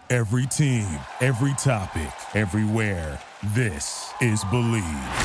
Every team, every topic, everywhere. This is Believe.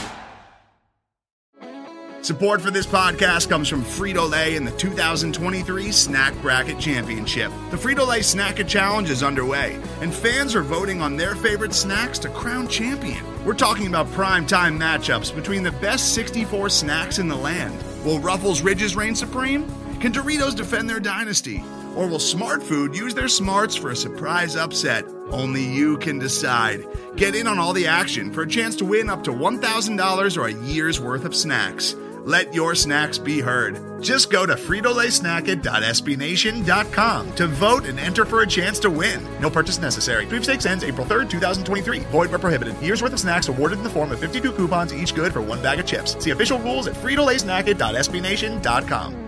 Support for this podcast comes from Frito-Lay and the 2023 Snack Bracket Championship. The Frito-Lay Snack-It Challenge is underway, and fans are voting on their favorite snacks to crown champion. We're talking about prime-time matchups between the best 64 snacks in the land. Will Ruffles Ridges reign supreme? Can Doritos defend their dynasty? Or will Smart Food use their smarts for a surprise upset? Only you can decide. Get in on all the action for a chance to win up to $1,000 or a year's worth of snacks. Let your snacks be heard. Just go to fritolaysnacket.sbnation.com to vote and enter for a chance to win. No purchase necessary. Sweepstakes ends April 3rd, 2023. Void where prohibited. Year's worth of snacks awarded in the form of 52 coupons, each good for one bag of chips. See official rules at fritolaysnacket.sbnation.com.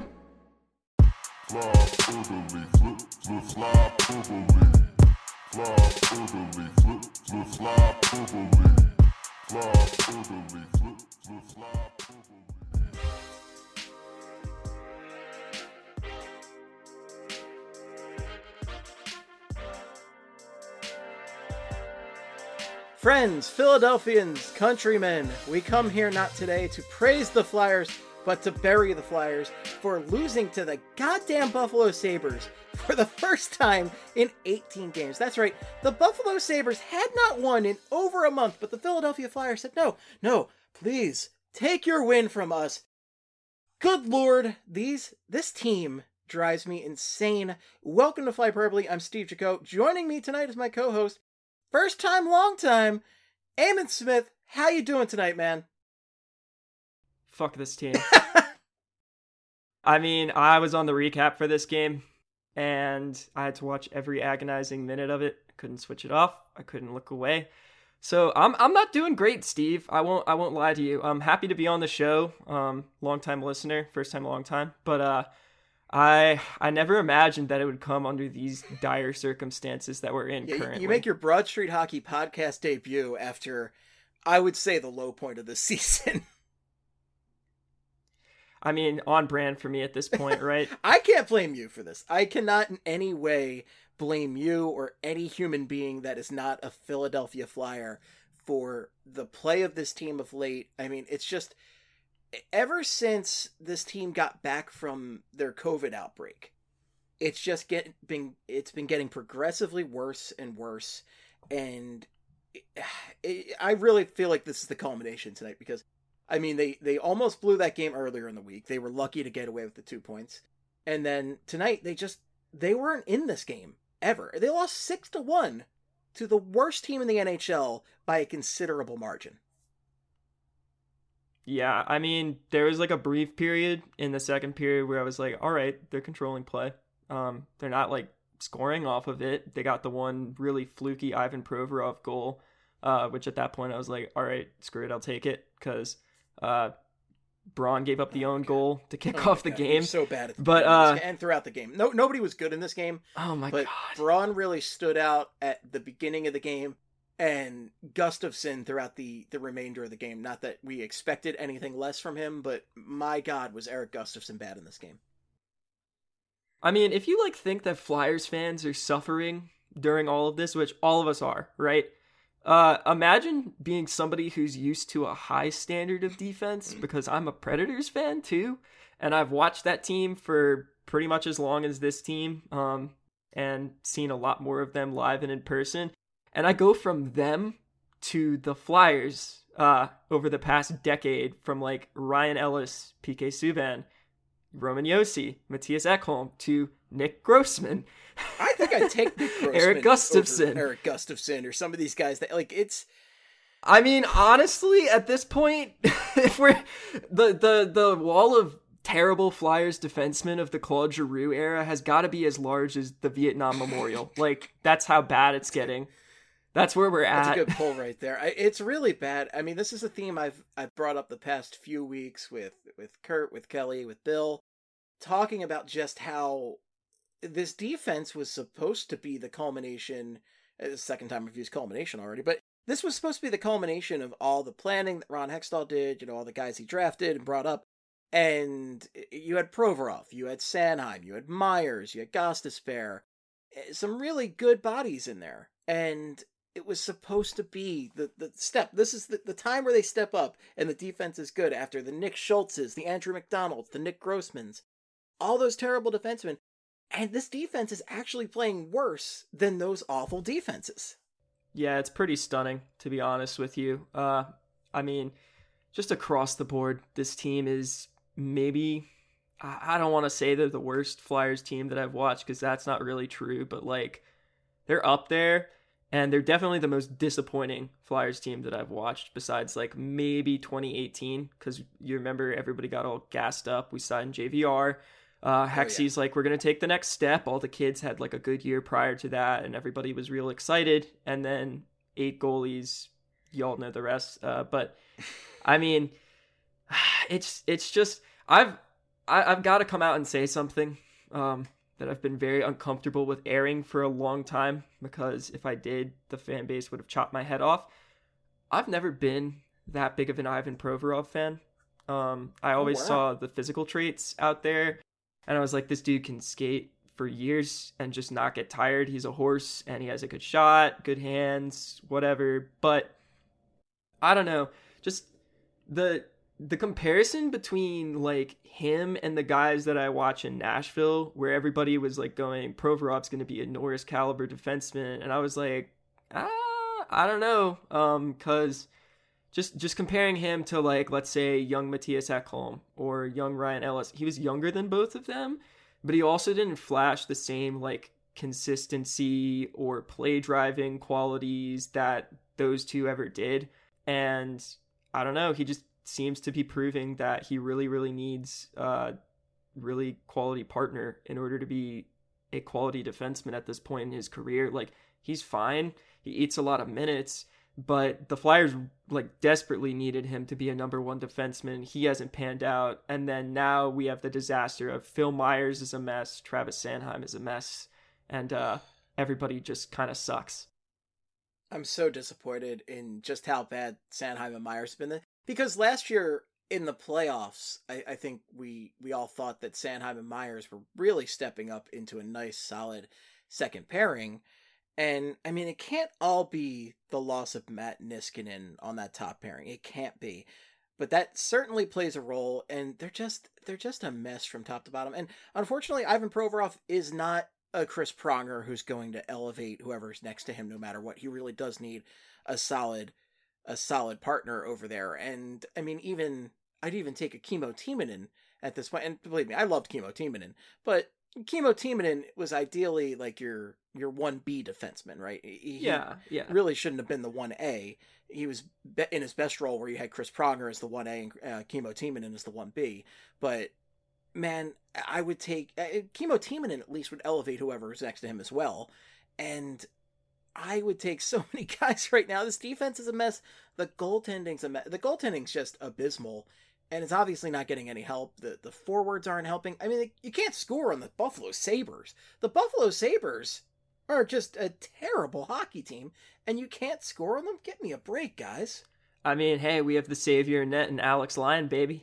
Friends, Philadelphians, countrymen, we come here not today to praise the Flyers, but to bury the Flyers for losing to the goddamn Buffalo Sabres for the first time in 18 games. That's right, the Buffalo Sabres had not won in over a month, but the Philadelphia Flyers said, no, please, take your win from us. Good Lord, this team drives me insane. Welcome to Flyperbole, I'm Steve Jaco. Joining me tonight is my co-host, first time, long time, Eamon Smith. How you doing tonight, man? Fuck this team. I mean, I was on the recap for this game, and I had to watch every agonizing minute of it. I couldn't switch it off. I couldn't look away. So I'm not doing great, Steve. I won't lie to you. I'm happy to be on the show. Long time listener, first time, long time. But I never imagined that it would come under these dire circumstances that we're in currently. You make your Broad Street Hockey podcast debut after, I would say, the low point of the season. I mean, on brand for me at this point, right? I can't blame you for this. I cannot in any way blame you or any human being that is not a Philadelphia Flyer for the play of this team of late. I mean, it's just, ever since this team got back from their COVID outbreak, it's just been getting progressively worse and worse. And I really feel like this is the culmination tonight because, I mean, they almost blew that game earlier in the week. They were lucky to get away with the 2 points. And then tonight, they weren't in this game, ever. They lost 6-1 to the worst team in the NHL by a considerable margin. Yeah, I mean, there was like a brief period in the second period where I was like, all right, they're controlling play. They're not like scoring off of it. They got the one really fluky Ivan Provorov goal, which at that point I was like, all right, screw it, I'll take it, because Braun gave up the own goal to kick off the game. So bad at the game, and throughout the game. Nobody was good in this game. Oh my god. Braun really stood out at the beginning of the game, and Gustafsson throughout the remainder of the game. Not that we expected anything less from him, but my god, was Erik Gustafsson bad in this game. I mean, if you think that Flyers fans are suffering during all of this, which all of us are, right? Imagine being somebody who's used to a high standard of defense, because I'm a Predators fan too, and I've watched that team for pretty much as long as this team, and seen a lot more of them live and in person. And I go from them to the Flyers over the past decade, from Ryan Ellis, PK Subban, Roman Josi, Matthias Ekholm, to Nick Grossman. I think I'd take Nick Grossman Erik Gustafsson. over Erik Gustafsson or some of these guys that it's. I mean, honestly, at this point, if we're the wall of terrible Flyers defensemen of the Claude Giroux era has got to be as large as the Vietnam Memorial. That's how bad it's getting. That's where we're at. That's a good pull right there. It's really bad. I mean, this is a theme I've brought up the past few weeks with Kurt, with Kelly, with Bill, talking about just how this defense was supposed to be the culmination. The second time I've used culmination already, but this was supposed to be the culmination of all the planning that Ron Hextall did, all the guys he drafted and brought up. And you had Provorov, you had Sanheim, you had Myers, you had Gostisbehere. some really good bodies in there. And it was supposed to be the step. This is the time where they step up and the defense is good after the Nick Schultzes, the Andrew McDonalds, the Nick Grossmans, all those terrible defensemen. And this defense is actually playing worse than those awful defenses. Yeah, it's pretty stunning, to be honest with you. I mean, just across the board, this team is maybe, I don't want to say they're the worst Flyers team that I've watched, because that's not really true, but like, they're up there, and they're definitely the most disappointing Flyers team that I've watched, besides like maybe 2018, because you remember everybody got all gassed up. We signed JVR. Hexy's like, we're going to take the next step. All the kids had like a good year prior to that, and everybody was real excited. And then 8 goalies, y'all know the rest. But I mean, it's just, I've got to come out and say something that I've been very uncomfortable with airing for a long time, because if I did, the fan base would have chopped my head off. I've never been that big of an Ivan Provorov fan. I always saw the physical traits out there, and I was like, this dude can skate for years and just not get tired. He's a horse, and he has a good shot, good hands, whatever. But I don't know, just the comparison between like him and the guys that I watch in Nashville, where everybody was like going, Provorov's going to be a Norris caliber defenseman, and I was like, I don't know, because just comparing him to, like, let's say young Matthias Ekholm or young Ryan Ellis, he was younger than both of them, but he also didn't flash the same like consistency or play driving qualities that those two ever did. And I don't know, he just seems to be proving that he really, really needs a really quality partner in order to be a quality defenseman at this point in his career. Like, he's fine. He eats a lot of minutes, but the Flyers like desperately needed him to be a number one defenseman. He hasn't panned out. And then now we have the disaster of Phil Myers is a mess. Travis Sanheim is a mess. And everybody just kind of sucks. I'm so disappointed in just how bad Sanheim and Myers have been. Because last year in the playoffs, I think we all thought that Sanheim and Myers were really stepping up into a nice, solid second pairing. And, I mean, it can't all be the loss of Matt Niskanen on that top pairing. It can't be. But that certainly plays a role, and they're just a mess from top to bottom. And unfortunately, Ivan Provorov is not a Chris Pronger who's going to elevate whoever's next to him no matter what. He really does need a solid partner over there. And, I mean, I'd even take a Kimmo Timonen at this point. And believe me, I loved Kimmo Timonen, but Kimmo Timonen was ideally like your 1B defenseman, right? He really shouldn't have been the 1A. He was in his best role where you had Chris Pronger as the 1A and Kimmo Timonen as the 1B. But man, I would take Kimmo Timonen. At least would elevate whoever's next to him as well. And I would take so many guys right now. This defense is a mess. The goaltending's a mess. The goaltending's just abysmal. And it's obviously not getting any help. The forwards aren't helping. I mean, you can't score on the Buffalo Sabres. The Buffalo Sabres are just a terrible hockey team, and you can't score on them? Give me a break, guys. I mean, hey, we have the savior net and Alex Lyon, baby.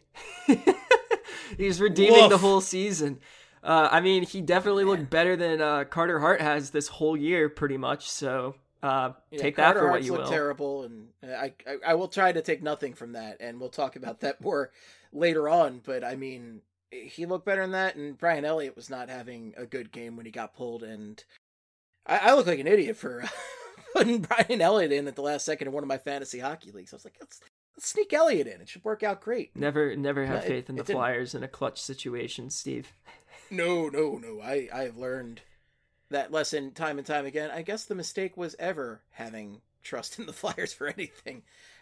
He's redeeming the whole season. I mean, he definitely looked better than Carter Hart has this whole year, pretty much, so... take that for what you will. Look terrible, and I will try to take nothing from that, and we'll talk about that more later on. But I mean, he looked better than that, and Brian Elliott was not having a good game when he got pulled, and I look like an idiot for putting Brian Elliott in at the last second in one of my fantasy hockey leagues. I was like, let's sneak Elliott in. It should work out great. Never have faith in the Flyers in a clutch situation, Steve. No. I've learned that lesson time and time again. I guess the mistake was ever having trust in the Flyers for anything.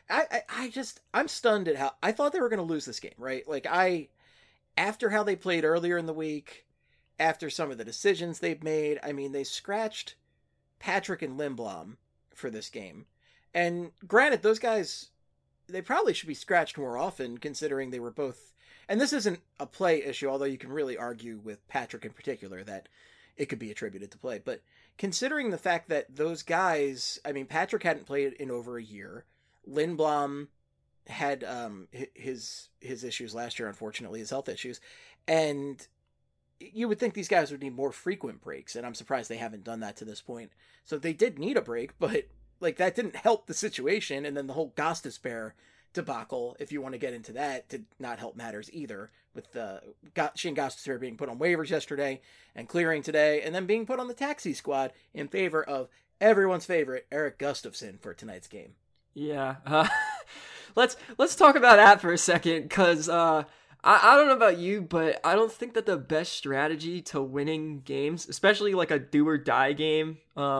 I'm stunned at how I thought they were going to lose this game, right? Like after how they played earlier in the week, after some of the decisions they've made, I mean, they scratched Patrick and Lindblom for this game. And granted, those guys, they probably should be scratched more often considering they were both, and this isn't a play issue, although you can really argue with Patrick in particular that it could be attributed to play. But considering the fact that those guys, I mean, Patrick hadn't played in over a year. Lindblom had his issues last year, unfortunately, his health issues. And you would think these guys would need more frequent breaks, and I'm surprised they haven't done that to this point. So they did need a break, but like that didn't help the situation. And then the whole Gostisbehere debacle, if you want to get into that, did not help matters either, with Shane Gostisbehere being put on waivers yesterday and clearing today, and then being put on the taxi squad in favor of everyone's favorite Erik Gustafsson for tonight's game. Yeah, let's talk about that for a second, because I don't know about you, but I don't think that the best strategy to winning games, especially like a do or die game,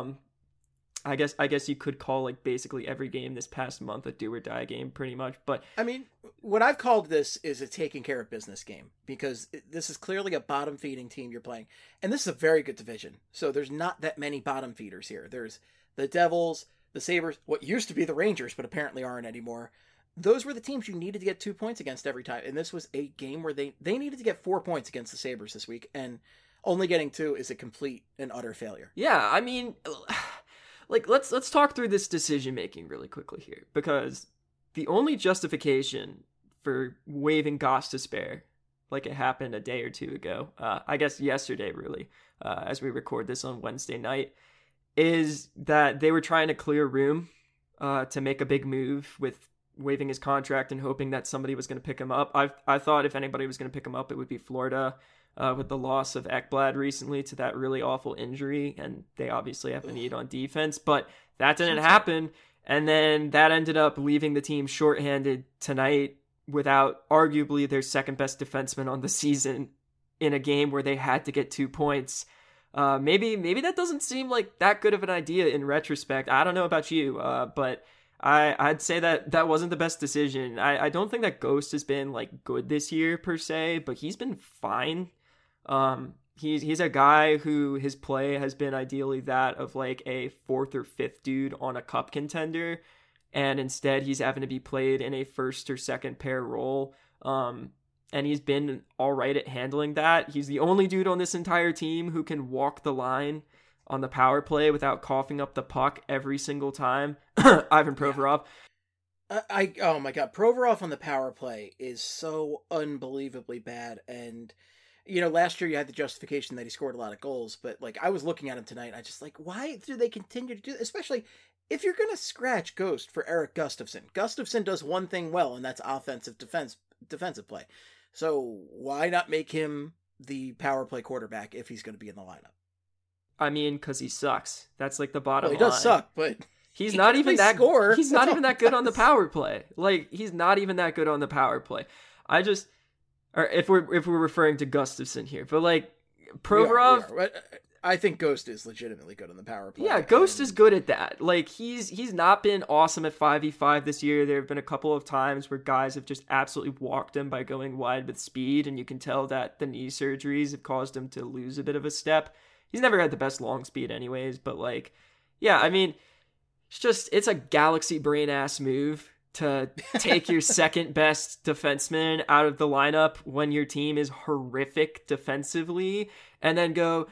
I guess you could call like basically every game this past month a do or die game pretty much. But I mean, what I've called this is a taking care of business game, because this is clearly a bottom feeding team you're playing. And this is a very good division. So there's not that many bottom feeders here. There's the Devils, the Sabres, what used to be the Rangers, but apparently aren't anymore. Those were the teams you needed to get 2 points against every time. And this was a game where they needed to get 4 points against the Sabres this week. And only getting 2 is a complete and utter failure. Yeah, I mean, like let's talk through this decision making really quickly here, because the only justification for waiving Gostisbehere, like it happened a day or two ago, I guess yesterday really, as we record this on Wednesday night, is that they were trying to clear room to make a big move with waiving his contract and hoping that somebody was going to pick him up. I thought if anybody was going to pick him up, it would be Florida, with the loss of Ekblad recently to that really awful injury, and they obviously have a need on defense, but that didn't happen, and then that ended up leaving the team shorthanded tonight without arguably their second best defenseman on the season in a game where they had to get 2 points. Maybe that doesn't seem like that good of an idea in retrospect. I don't know about you, but I'd say that wasn't the best decision. I don't think that Ghost has been like good this year per se, but he's been fine. He's a guy who his play has been ideally that of like a 4th or 5th dude on a cup contender, and instead he's having to be played in a 1st or 2nd pair role. And he's been all right at handling that. He's the only dude on this entire team who can walk the line on the power play without coughing up the puck every single time. Ivan Provorov. Oh my God, Provorov on the power play is so unbelievably bad. And you know, last year you had the justification that he scored a lot of goals, but like I was looking at him tonight, and I just like, why do they continue to do this? Especially if you're gonna scratch Ghost for Erik Gustafsson. Gustafsson does one thing well, and that's offensive defensive play. So why not make him the power play quarterback if he's going to be in the lineup? I mean, because he sucks. That's like the bottom line. He does suck, but he's not even that score. He's not even that good on the power play. Like he's not even that good on the power play. Or if we're referring to Gustafsson here, but like Provorov, we are. I think Ghost is legitimately good on the power play. Yeah, Ghost is good at that. Like he's not been awesome at 5v5 this year. There have been a couple of times where guys have just absolutely walked him by going wide with speed, and you can tell that the knee surgeries have caused him to lose a bit of a step. He's never had the best long speed anyways, but like, yeah, I mean, it's a galaxy brain ass move to take your second best defenseman out of the lineup when your team is horrific defensively, and then go,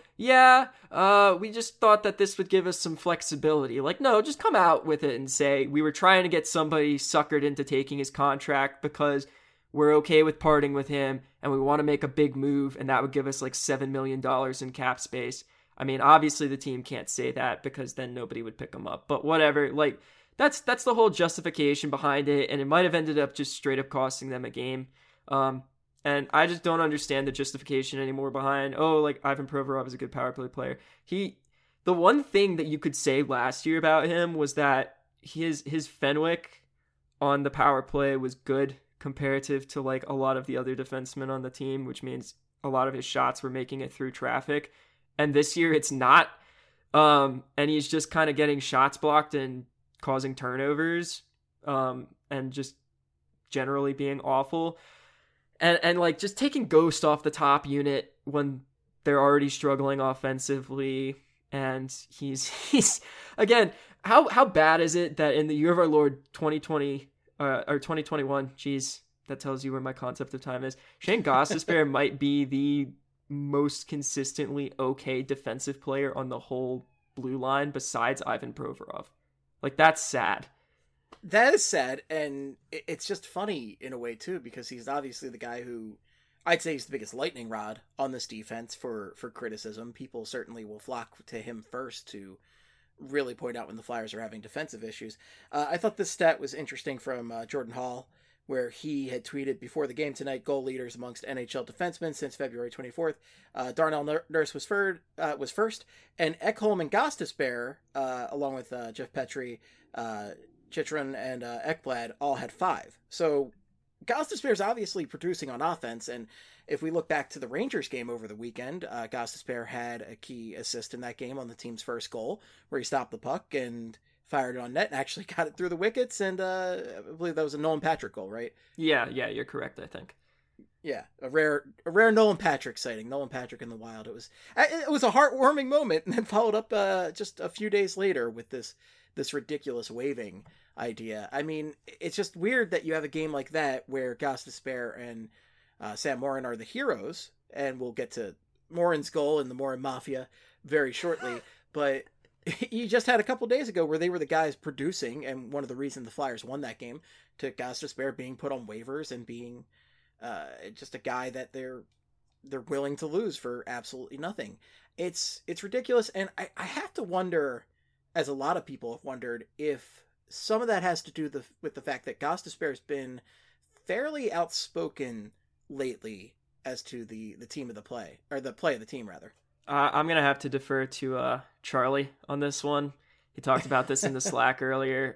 we just thought that this would give us some flexibility. Like, no, just come out with it and say, we were trying to get somebody suckered into taking his contract because we're okay with parting with him, and we want to make a big move, and that would give us like $7 million in cap space. I mean, obviously the team can't say that because then nobody would pick him up, but whatever, like, that's the whole justification behind it, and it might have ended up just straight up costing them a game. And I just don't understand the justification anymore behind, like Ivan Provorov is a good power play player. The one thing that you could say last year about him was that his Fenwick on the power play was good comparative to like a lot of the other defensemen on the team, which means a lot of his shots were making it through traffic. And this year it's not. And he's just kind of getting shots blocked and causing turnovers, and just generally being awful. And like just taking Ghost off the top unit when they're already struggling offensively. And he's again, how bad is it that in the year of our Lord 2020 or 2021, geez, that tells you where my concept of time is. Shane Gostisbehere might be the most consistently okay defensive player on the whole blue line besides Ivan Provorov. Like, that's sad. That is sad, and it's just funny in a way, too, because he's obviously the guy who I'd say he's the biggest lightning rod on this defense for criticism. People certainly will flock to him first to really point out when the Flyers are having defensive issues. I thought this stat was interesting from Jordan Hall, where he had tweeted before the game tonight, goal leaders amongst NHL defensemen since February 24th. Darnell Nurse was first, and Ekholm and Gostisbehere, along with Jeff Petrie, Chychrun, and Ekblad, all had 5. So Gostisbehere is obviously producing on offense, and if we look back to the Rangers game over the weekend, Gostisbehere had a key assist in that game on the team's first goal, where he stopped the puck and fired it on net and actually got it through the wickets, and I believe that was a Nolan Patrick goal, right? Yeah, you're correct, I think. Yeah, a rare Nolan Patrick sighting. Nolan Patrick in the wild. It was a heartwarming moment, and then followed up just a few days later with this ridiculous waving idea. I mean, it's just weird that you have a game like that where Gostisbehere and Sam Morin are the heroes, and we'll get to Morin's goal and the Morin Mafia very shortly, but you just had a couple days ago where they were the guys producing, and one of the reasons the Flyers won that game to Gostisbehere being put on waivers and being just a guy that they're willing to lose for absolutely nothing. It's ridiculous, and I have to wonder, as a lot of people have wondered, if some of that has to do with the fact that Gostisbehere has been fairly outspoken lately as to the team of the play, or the play of the team, rather. I'm going to have to defer to Charlie on this one. He talked about this in the Slack earlier.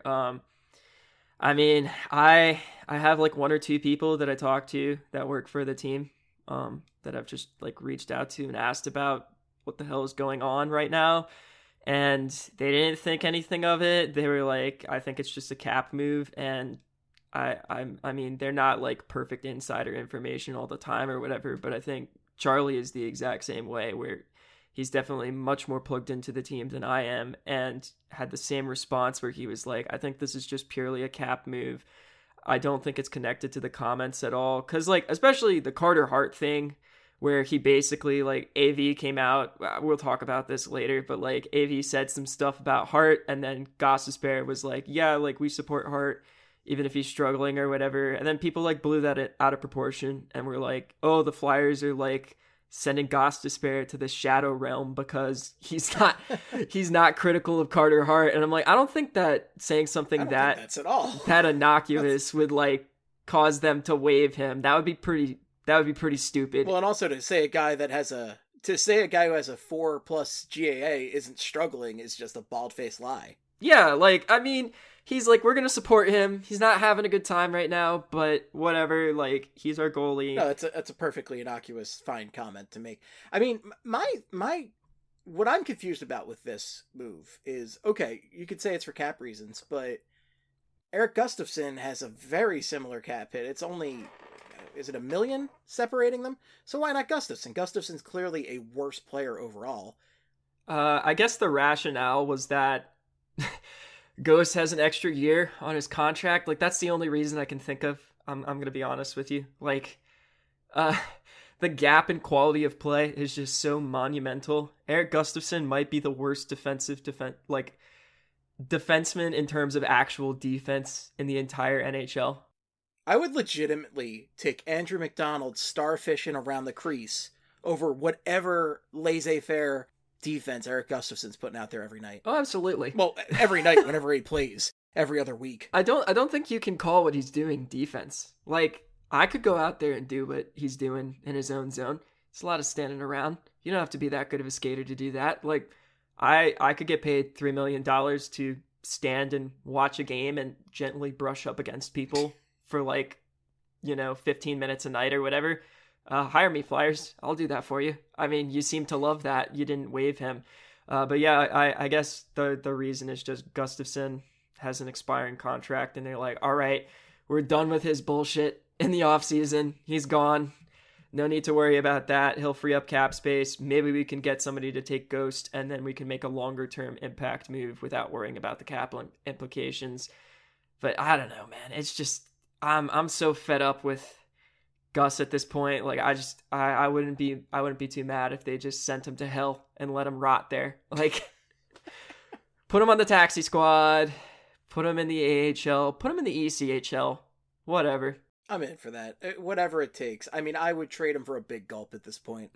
I mean, I have like 1 or 2 people that I talk to that work for the team that I've just like reached out to and asked about what the hell is going on right now. And they didn't think anything of it. They were like, I think it's just a cap move. And I mean, they're not like perfect insider information all the time or whatever, but I think Charlie is the exact same way, where he's definitely much more plugged into the team than I am, and had the same response where he was like, I think this is just purely a cap move. I don't think it's connected to the comments at all. Cause like, especially the Carter Hart thing, where he basically like AV came out, we'll talk about this later, but like AV said some stuff about Hart, and then Gostisbehere was like, yeah, like we support Hart even if he's struggling or whatever. And then people like blew that out of proportion and were like, oh, the Flyers are like sending Gostisbehere to the shadow realm because he's not critical of Carter Hart. And I'm like, I don't think that saying something that's at all that innocuous would like cause them to waive him. That would be pretty stupid. Well, and also to say a guy who has a 4+ GAA isn't struggling is just a bald-faced lie. Yeah, like, I mean, he's like, we're going to support him. He's not having a good time right now, but whatever, like, he's our goalie. No, that's a perfectly innocuous, fine comment to make. I mean, what I'm confused about with this move is, okay, you could say it's for cap reasons, but Erik Gustafsson has a very similar cap hit. It's only, is it $1 million separating them? So why not Gustafsson? Gustafsson's clearly a worse player overall. I guess the rationale was that Ghost has an extra year on his contract. Like, that's the only reason I can think of. I'm going to be honest with you. Like, the gap in quality of play is just so monumental. Erik Gustafsson might be the worst defenseman in terms of actual defense in the entire NHL. I would legitimately take Andrew McDonald starfishing around the crease over whatever laissez-faire defense Erik Gustafsson's putting out there every night. Oh, absolutely. Well, every night whenever he plays, every other week. I don't think you can call what he's doing defense. Like, I could go out there and do what he's doing in his own zone. It's a lot of standing around. You don't have to be that good of a skater to do that. Like, I could get paid $3 million to stand and watch a game and gently brush up against people for 15 minutes a night or whatever. Hire me, Flyers. I'll do that for you. I mean, you seem to love that. You didn't waive him. But yeah, I guess the reason is just Gustafsson has an expiring contract, and they're like, all right, we're done with his bullshit in the offseason. He's gone. No need to worry about that. He'll free up cap space. Maybe we can get somebody to take Ghost, and then we can make a longer-term impact move without worrying about the cap implications. But I don't know, man. It's just, I'm so fed up with Gus at this point. Like, I wouldn't be too mad if they just sent him to hell and let him rot there. Like, put him on the taxi squad, put him in the AHL, put him in the ECHL, whatever. I'm in for that. Whatever it takes. I mean, I would trade him for a big gulp at this point.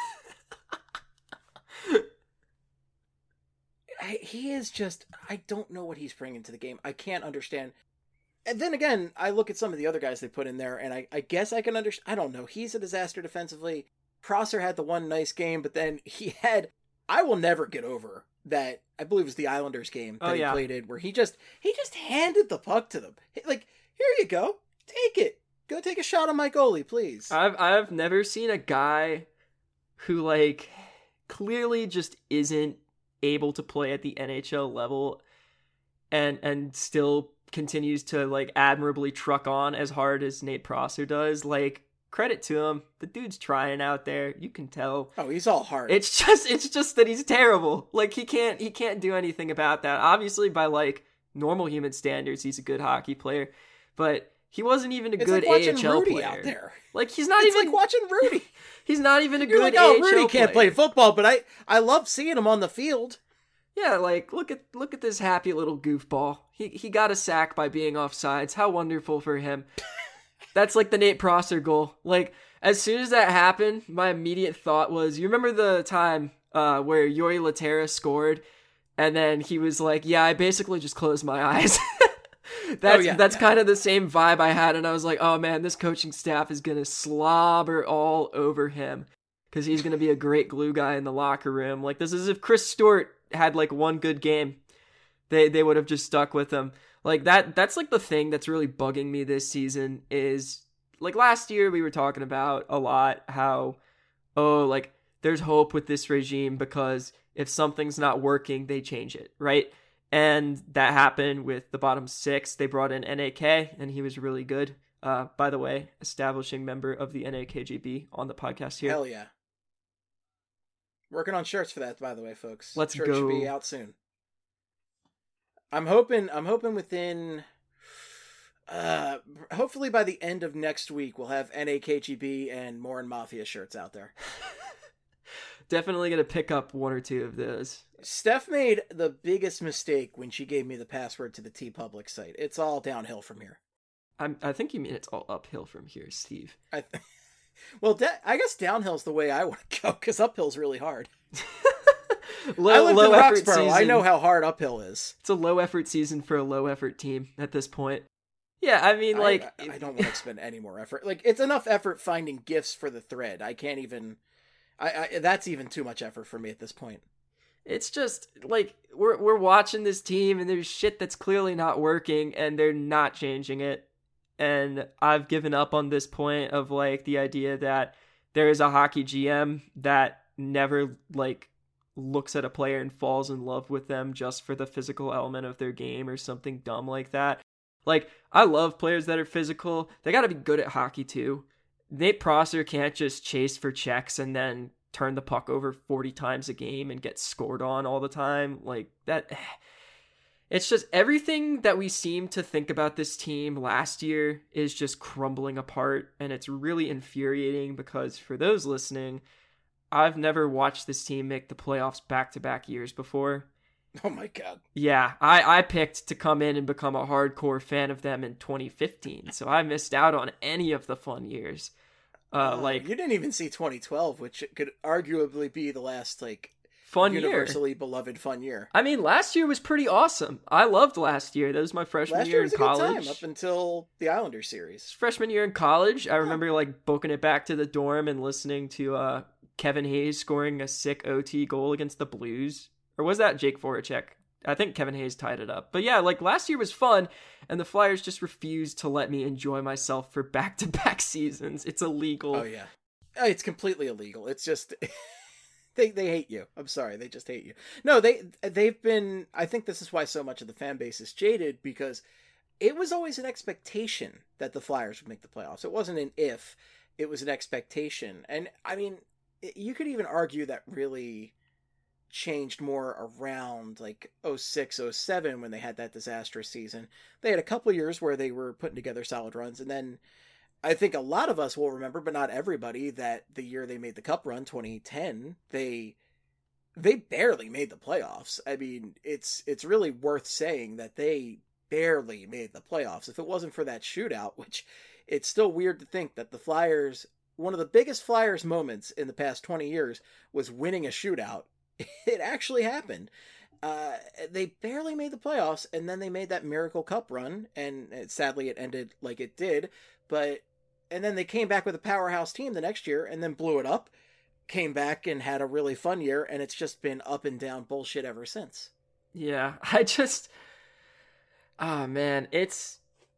He is just, I don't know what he's bringing to the game. I can't understand. And then again, I look at some of the other guys they put in there, and I guess I can understand. I don't know. He's a disaster defensively. Prosser had the one nice game, but then he had, I will never get over that, I believe it was the Islanders game that he played in, where he just handed the puck to them. Like, here you go. Take it. Go take a shot on my goalie, please. I've never seen a guy who, like, clearly just isn't able to play at the NHL level and still continues to, like, admirably truck on as hard as Nate Prosser does. Like, credit to him. The dude's trying out there. You can tell. Oh, he's all hard. It's just that he's terrible. Like, he can't do anything about that. Obviously, by, like, normal human standards, he's a good hockey player, but he wasn't even a good AHL Rudy player. Out there. Like, he's not it's even like watching Rudy. He's not even a You're good like, oh, AHL Rudy can't player. play football, but I love seeing him on the field. Yeah, like, look at this happy little goofball. He got a sack by being offsides. How wonderful for him. That's like the Nate Prosser goal. Like, as soon as that happened, my immediate thought was, you remember the time where Yuri Laterra scored, and then he was like, yeah, I basically just closed my eyes. That's kind of the same vibe I had, and I was like, oh man, this coaching staff is going to slobber all over him, because he's going to be a great glue guy in the locker room. Like, this is if Chris Stewart had, like, one good game. They would have just stuck with him. Like, that's, like, the thing that's really bugging me this season is, like, last year we were talking about a lot how, oh, like, there's hope with this regime because if something's not working, they change it, right? And that happened with the bottom six. They brought in NAK, and he was really good. By the way, establishing member of the NAKGB on the podcast here. Hell yeah. Working on shirts for that, by the way, folks. Let's Shirts go. Should be out soon. I'm hoping within, hopefully by the end of next week, we'll have NAKGB and Morin Mafia shirts out there. Definitely going to pick up one or two of those. Steph made the biggest mistake when she gave me the password to the TeePublic site. It's all downhill from here. I think you mean it's all uphill from here, Steve. Well, I guess downhill's the way I want to go, because uphill's really hard. I low lived in effort Roxborough. season. I know how hard uphill is. It's a low effort season for a low effort team at this point. Yeah, I mean, like, I don't want to expend any more effort. Like, it's enough effort finding gifts for the thread. I can't even. That's even too much effort for me at this point. It's just like we're watching this team and there's shit that's clearly not working and they're not changing it. And I've given up on this point of, like, the idea that there is a hockey GM that never, like, looks at a player and falls in love with them just for the physical element of their game or something dumb like that. Like, I love players that are physical. They got to be good at hockey too. Nate Prosser can't just chase for checks and then turn the puck over 40 times a game and get scored on all the time. Like, that, it's just everything that we seem to think about this team last year is just crumbling apart, and it's really infuriating because, for those listening, I've never watched this team make the playoffs back-to-back years before. Oh my god. Yeah, I picked to come in and become a hardcore fan of them in 2015, so I missed out on any of the fun years. Like, you didn't even see 2012, which could arguably be the last, like, fun universally beloved fun year. I mean, last year was pretty awesome. I loved last year. That was my freshman year in college. Last year was a good time up until the Islanders series. Freshman year in college, I remember, like, booking it back to the dorm and listening to Kevin Hayes scoring a sick OT goal against the Blues. Or was that Jake Voracek? I think Kevin Hayes tied it up. But yeah, like, last year was fun, and the Flyers just refused to let me enjoy myself for back-to-back seasons. It's illegal. Oh, yeah. It's completely illegal. It's just... They hate you. I'm sorry. They just hate you. No, they've been... I think this is why so much of the fan base is jaded, because it was always an expectation that the Flyers would make the playoffs. It wasn't an if. It was an expectation. And, I mean, you could even argue that really changed more around, like, 06, 07, when they had that disastrous season. They had a couple years where they were putting together solid runs, and then I think a lot of us will remember, but not everybody, that the year they made the Cup run, 2010, they barely made the playoffs. I mean, it's really worth saying that they barely made the playoffs. If it wasn't for that shootout, which it's still weird to think that the Flyers, one of the biggest Flyers moments in the past 20 years was winning a shootout. It actually happened. They barely made the playoffs, and then they made that Miracle Cup run, and sadly it ended like it did, and then they came back with a powerhouse team the next year, and then blew it up, came back and had a really fun year, and it's just been up and down bullshit ever since. Yeah, man, it's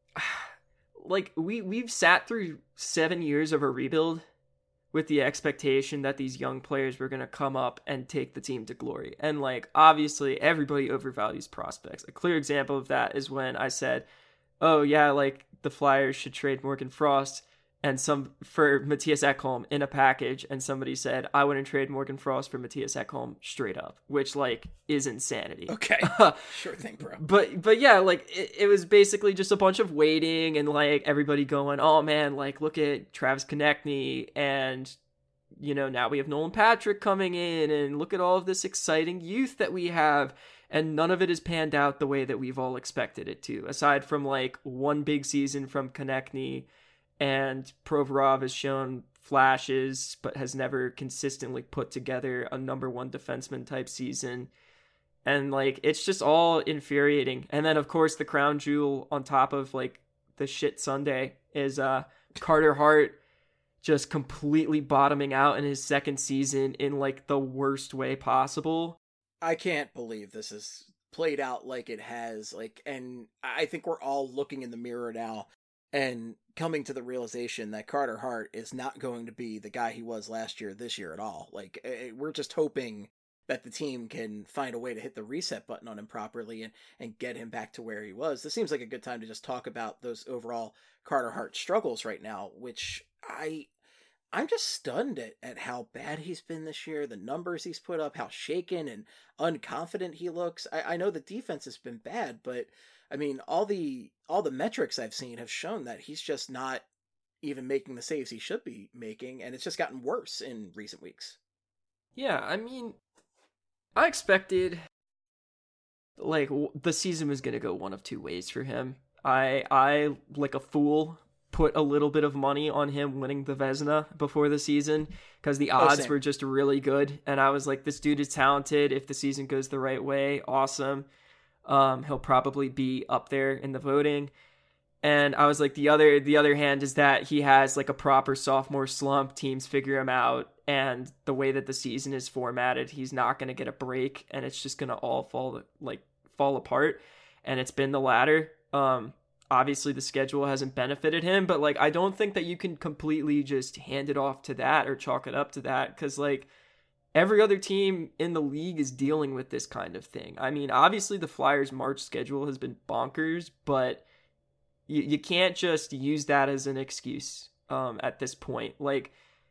like we've sat through 7 years of a rebuild with the expectation that these young players were going to come up and take the team to glory. And like, obviously everybody overvalues prospects. A clear example of that is when I said, oh yeah, like the Flyers should trade Morgan Frost and for Mattias Ekholm in a package. And somebody said, I wouldn't trade Morgan Frost for Mattias Ekholm straight up, which like is insanity. Okay. Sure thing, bro. But yeah, like it was basically just a bunch of waiting and like everybody going, oh man, like look at Travis Konechny, and you know, now we have Nolan Patrick coming in, and look at all of this exciting youth that we have. And none of it has panned out the way that we've all expected it to, aside from like one big season from Konechny, and Provorov has shown flashes, but has never consistently put together a number one defenseman type season. And like, it's just all infuriating. And then of course the crown jewel on top of like the shit Sunday is Carter Hart just completely bottoming out in his second season in like the worst way possible. I can't believe this has played out like it has, like, and I think we're all looking in the mirror now and coming to the realization that Carter Hart is not going to be the guy he was last year, this year at all. Like, we're just hoping that the team can find a way to hit the reset button on him properly and get him back to where he was. This seems like a good time to just talk about those overall Carter Hart struggles right now, which I'm just stunned at how bad he's been this year, the numbers he's put up, how shaken and unconfident he looks. I know the defense has been bad, but I mean, all the metrics I've seen have shown that he's just not even making the saves he should be making, and it's just gotten worse in recent weeks. Yeah, I mean, I expected like the season was going to go one of two ways for him. I like a fool put a little bit of money on him winning the Vezina before the season because the odds were just really good, and I was like, this dude is talented. If the season goes the right way, awesome. He'll probably be up there in the voting. And I was like, the other hand is that he has like a proper sophomore slump. Teams figure him out, and the way that the season is formatted, he's not going to get a break, and it's just going to all fall apart. And it's been the latter. Obviously the schedule hasn't benefited him, but like, I don't think that you can completely just hand it off to that or chalk it up to that, because like every other team in the league is dealing with this kind of thing. I mean, obviously the Flyers' March schedule has been bonkers, but you can't just use that as an excuse at this point. Like,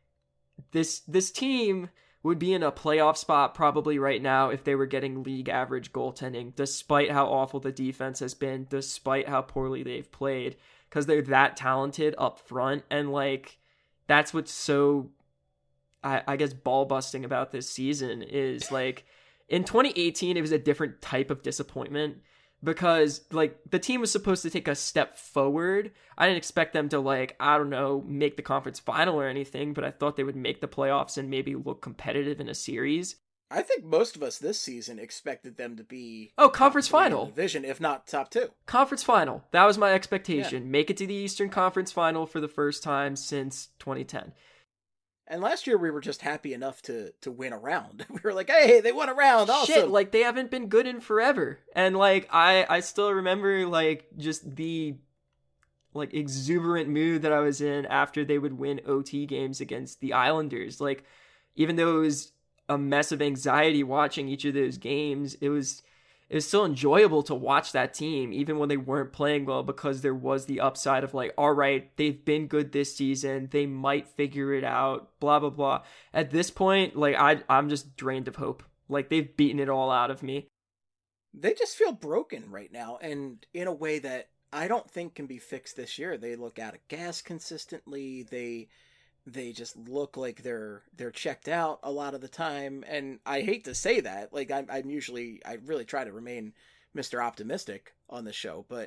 this team would be in a playoff spot probably right now if they were getting league average goaltending, despite how awful the defense has been, despite how poorly they've played, because they're that talented up front. And like, that's what's so, I guess, ball busting about this season is like, in 2018, it was a different type of disappointment because like the team was supposed to take a step forward. I didn't expect them to like, I don't know, make the conference final or anything, but I thought they would make the playoffs and maybe look competitive in a series. I think most of us this season expected them to be conference final division, if not top two. Conference final. That was my expectation. Yeah. Make it to the Eastern Conference final for the first time since 2010. And last year we were just happy enough to win a round. We were like, hey, they won a round. Awesome. Shit, like they haven't been good in forever. And like I still remember like just the like exuberant mood that I was in after they would win OT games against the Islanders. Like, even though it was a mess of anxiety watching each of those games, it was still enjoyable to watch that team, even when they weren't playing well, because there was the upside of like, all right, they've been good this season. They might figure it out, blah, blah, blah. At this point, like I'm just drained of hope. Like they've beaten it all out of me. They just feel broken right now, and in a way that I don't think can be fixed this year. They look out of gas consistently. They just look like they're checked out a lot of the time. And I hate to say that. Like I really try to remain Mr. Optimistic on the show, but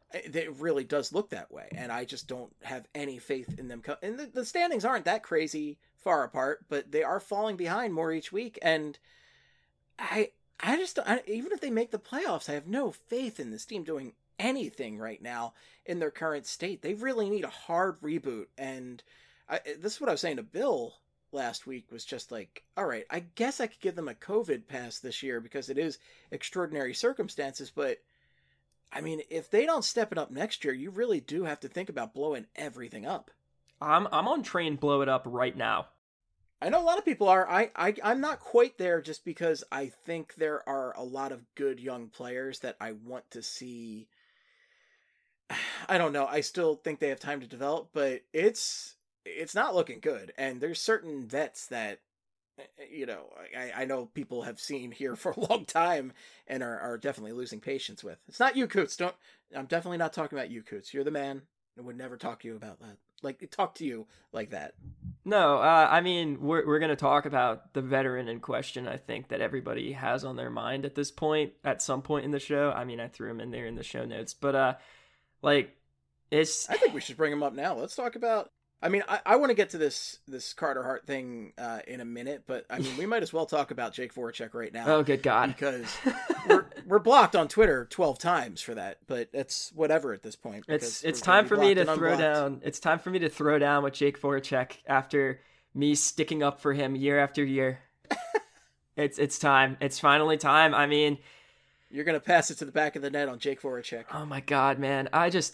It really does look that way, and I just don't have any faith in them. And the standings aren't that crazy far apart, but they are falling behind more each week. And I just don't, even if they make the playoffs, I have no faith in this team doing anything right now in their current state. They really need a hard reboot. And this is what I was saying to Bill last week, was just like, all right, I guess I could give them a COVID pass this year because it is extraordinary circumstances, but I mean, if they don't step it up next year, you really do have to think about blowing everything up. I'm on train blow it up right now. I know a lot of people are. I'm not quite there, just because I think there are a lot of good young players that I want to see. I don't know. I still think they have time to develop, but it's not looking good. And there's certain vets that, you know, I know people have seen here for a long time and are definitely losing patience with. It's not you, Coots. I'm definitely not talking about you, Coots. You're the man. I would never talk to you about that. Talk to you like that. No, I mean, we're going to talk about the veteran in question, I think, that everybody has on their mind at this point, at some point in the show. I mean, I threw him in there in the show notes, but, I think we should bring him up now. Let's talk about... I mean, I want to get to this Carter Hart thing in a minute, but I mean, we might as well talk about Jake Voracek right now. Oh, good God. Because we're blocked on Twitter 12 times for that, but it's whatever at this point. It's time for me to throw down. It's time for me to throw down with Jake Voracek after me sticking up for him year after year. It's time. It's finally time. I mean, you're going to pass it to the back of the net on Jake Voracek. Oh my God, man.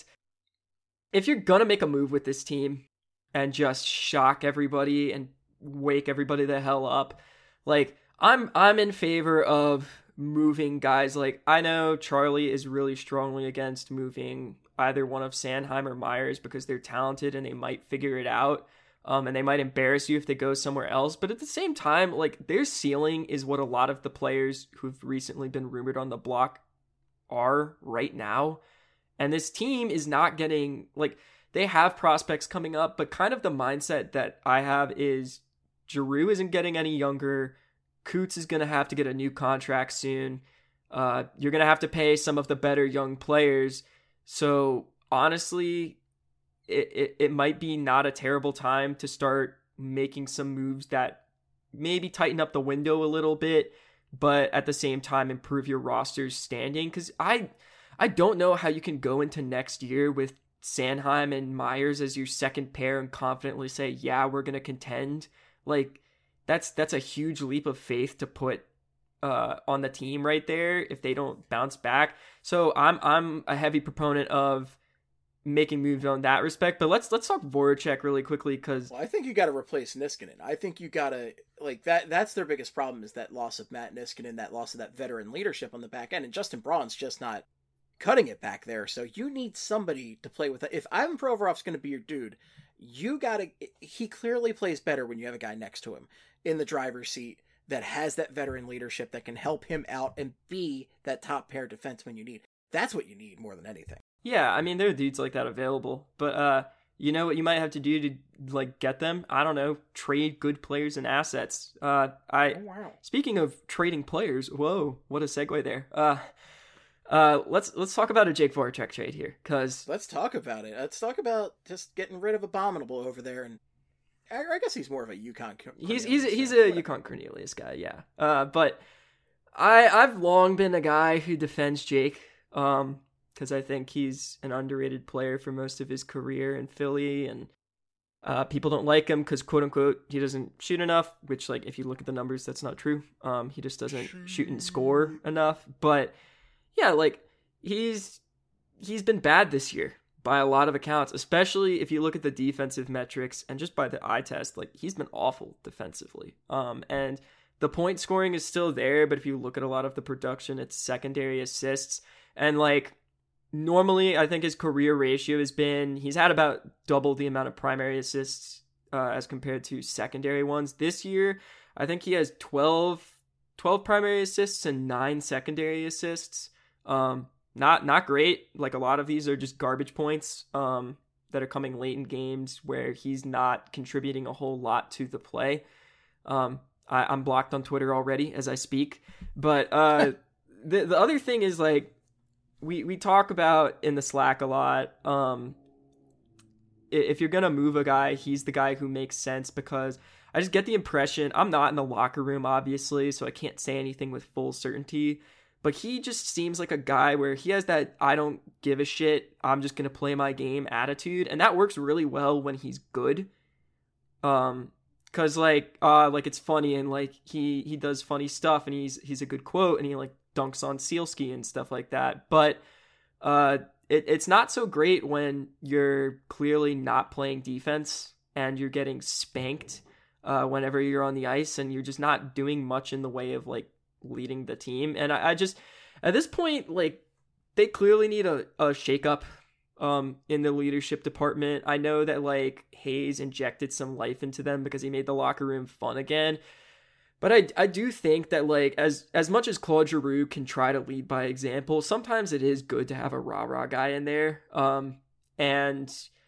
If you're going to make a move with this team and just shock everybody and wake everybody the hell up, like, I'm in favor of moving guys. Like, I know Charlie is really strongly against moving either one of Sanheim or Myers because they're talented and they might figure it out. And they might embarrass you if they go somewhere else. But at the same time, like, their ceiling is what a lot of the players who've recently been rumored on the block are right now. And this team is not getting, like, they have prospects coming up, but kind of the mindset that I have is Giroux isn't getting any younger. Coots is going to have to get a new contract soon. You're going to have to pay some of the better young players. So honestly, it might be not a terrible time to start making some moves that maybe tighten up the window a little bit, but at the same time improve your roster's standing. Because I don't know how you can go into next year with Sanheim and Myers as your second pair and confidently say, yeah, we're going to contend. Like, that's a huge leap of faith to put on the team right there if they don't bounce back. So I'm a heavy proponent of making moves on that respect. But let's talk Voracek really quickly, because I think you got to replace Niskanen. I think you got to, like, that's their biggest problem, is that loss of Matt Niskanen, that loss of that veteran leadership on the back end, and Justin Braun's just not cutting it back there. So you need somebody to play with it. If Ivan Provorov's going to be your dude, he clearly plays better when you have a guy next to him in the driver's seat that has that veteran leadership that can help him out and be that top pair defenseman you need. That's what you need more than anything. Yeah, I mean, there are dudes like that available, but you know what you might have to do to, like, get them? I don't know, trade good players and assets. Wow. Speaking of trading players, whoa, what a segue there. Let's talk about a Jake Voracek trade here, because let's talk about it. Let's talk about just getting rid of Abominable over there, and I guess he's more of a Yukon. He's a Yukon Cornelius guy, yeah. But I've long been a guy who defends Jake, because I think he's an underrated player for most of his career in Philly, and people don't like him because, quote unquote, he doesn't shoot enough. Which, like, if you look at the numbers, that's not true. He just doesn't shoot and score enough, but. Yeah, like, he's been bad this year by a lot of accounts, especially if you look at the defensive metrics and just by the eye test. Like, he's been awful defensively. And the point scoring is still there, but if you look at a lot of the production, it's secondary assists. And, like, normally I think his career ratio he's had about double the amount of primary assists as compared to secondary ones. This year, I think he has 12 primary assists and 9 secondary assists. Not great. Like, a lot of these are just garbage points that are coming late in games where he's not contributing a whole lot to the play. I'm blocked on Twitter already as I speak. But the other thing is, like, we talk about in the Slack a lot. If you're gonna move a guy, he's the guy who makes sense, because I just get the impression, I'm not in the locker room obviously, so I can't say anything with full certainty, but he just seems like a guy where he has that I don't give a shit, I'm just gonna play my game attitude, and that works really well when he's good. Cause like it's funny, and like he does funny stuff, and he's a good quote, and he like dunks on Sealski and stuff like that. But it's not so great when you're clearly not playing defense and you're getting spanked whenever you're on the ice, and you're just not doing much in the way of like leading the team. And I just, at this point, like, they clearly need a shakeup in the leadership department. I know that like Hayes injected some life into them because he made the locker room fun again. But I do think that like as much as Claude Giroux can try to lead by example, sometimes it is good to have a rah-rah guy in there. And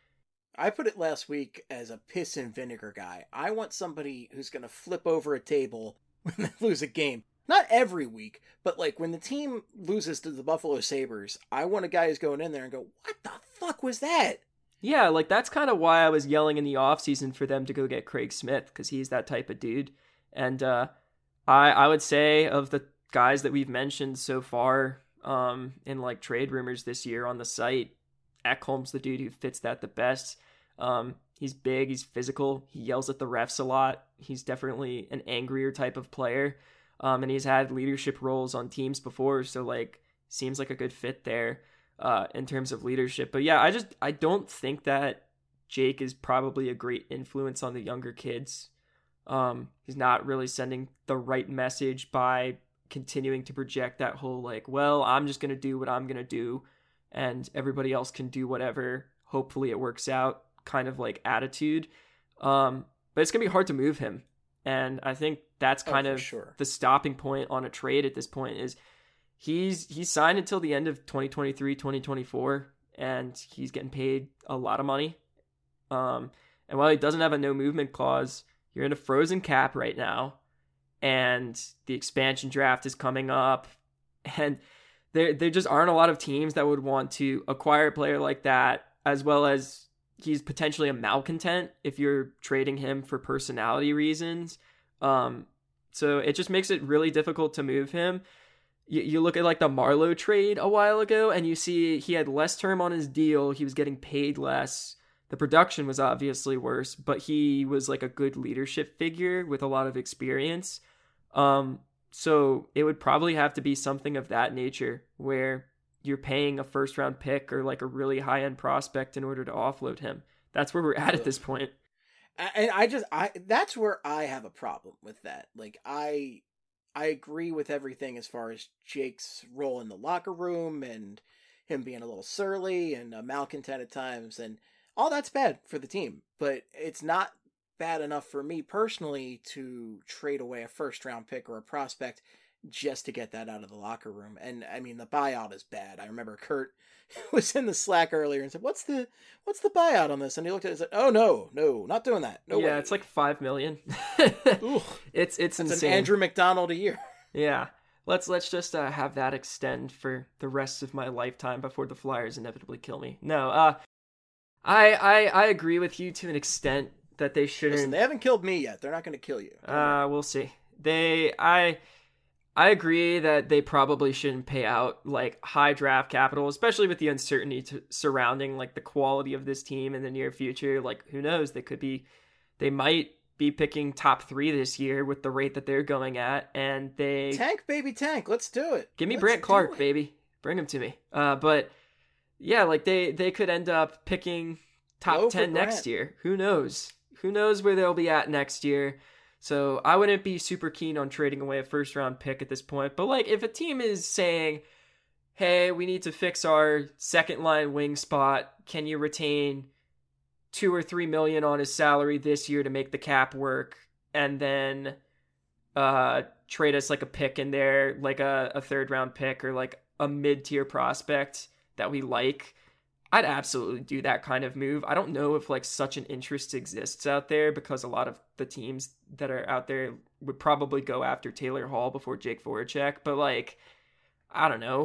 I put it last week as a piss and vinegar guy. I want somebody who's going to flip over a table when they lose a game. Not every week, but like when the team loses to the Buffalo Sabres, I want a guy who's going in there and go, what the fuck was that? Yeah, like that's kind of why I was yelling in the offseason for them to go get Craig Smith, because he's that type of dude. And I would say of the guys that we've mentioned so far in like trade rumors this year on the site, Ekholm's the dude who fits that the best. He's big, he's physical, he yells at the refs a lot. He's definitely an angrier type of player. And he's had leadership roles on teams before, so like seems like a good fit there in terms of leadership. But yeah, I don't think that Jake is probably a great influence on the younger kids. He's not really sending the right message by continuing to project that whole like, well, I'm just going to do what I'm going to do and everybody else can do whatever. Hopefully it works out kind of like attitude. But it's going to be hard to move him. And I think that's kind of the stopping point on a trade at this point is he's signed until the end of 2023, 2024, and he's getting paid a lot of money. And while he doesn't have a no movement clause, you're in a frozen cap right now, and the expansion draft is coming up, and there just aren't a lot of teams that would want to acquire a player like that, as well as he's potentially a malcontent if you're trading him for personality reasons. So it just makes it really difficult to move him. You look at like the Marleau trade a while ago, and you see he had less term on his deal. He was getting paid less. The production was obviously worse, but he was like a good leadership figure with a lot of experience. So it would probably have to be something of that nature where you're paying a first round pick or like a really high end prospect in order to offload him. That's where we're at this point. And that's where I have a problem with that. Like I agree with everything as far as Jake's role in the locker room and him being a little surly and a malcontent at times, and all that's bad for the team, but it's not bad enough for me personally to trade away a first round pick or a prospect just to get that out of the locker room. And I mean, the buyout is bad. I remember Kurt was in the Slack earlier and said, what's the buyout on this? And he looked at it and said, oh no, not doing that. No way. It's like $5 million. It's insane. An Andrew McDonald a year. Yeah. Let's just have that extend for the rest of my lifetime before the Flyers inevitably kill me. No, I agree with you to an extent that they shouldn't. Listen, they haven't killed me yet. They're not going to kill you. We'll see. I agree that they probably shouldn't pay out like high draft capital, especially with the uncertainty surrounding like the quality of this team in the near future. Like, who knows? They might be picking top 3 this year with the rate that they're going at, and they tank, baby, tank. Let's do it. Give me Brant Clark, baby. Bring him to me. But yeah, like they could end up picking top 10 next year. Who knows? Who knows where they'll be at next year? So I wouldn't be super keen on trading away a first round pick at this point. But like if a team is saying, hey, we need to fix our second line wing spot, can you retain $2 or $3 million on his salary this year to make the cap work, and then trade us like a pick in there, like a third round pick or like a mid-tier prospect that we like, I'd absolutely do that kind of move. I don't know if like such an interest exists out there, because a lot of the teams that are out there would probably go after Taylor Hall before Jake Voracek, but like, I don't know.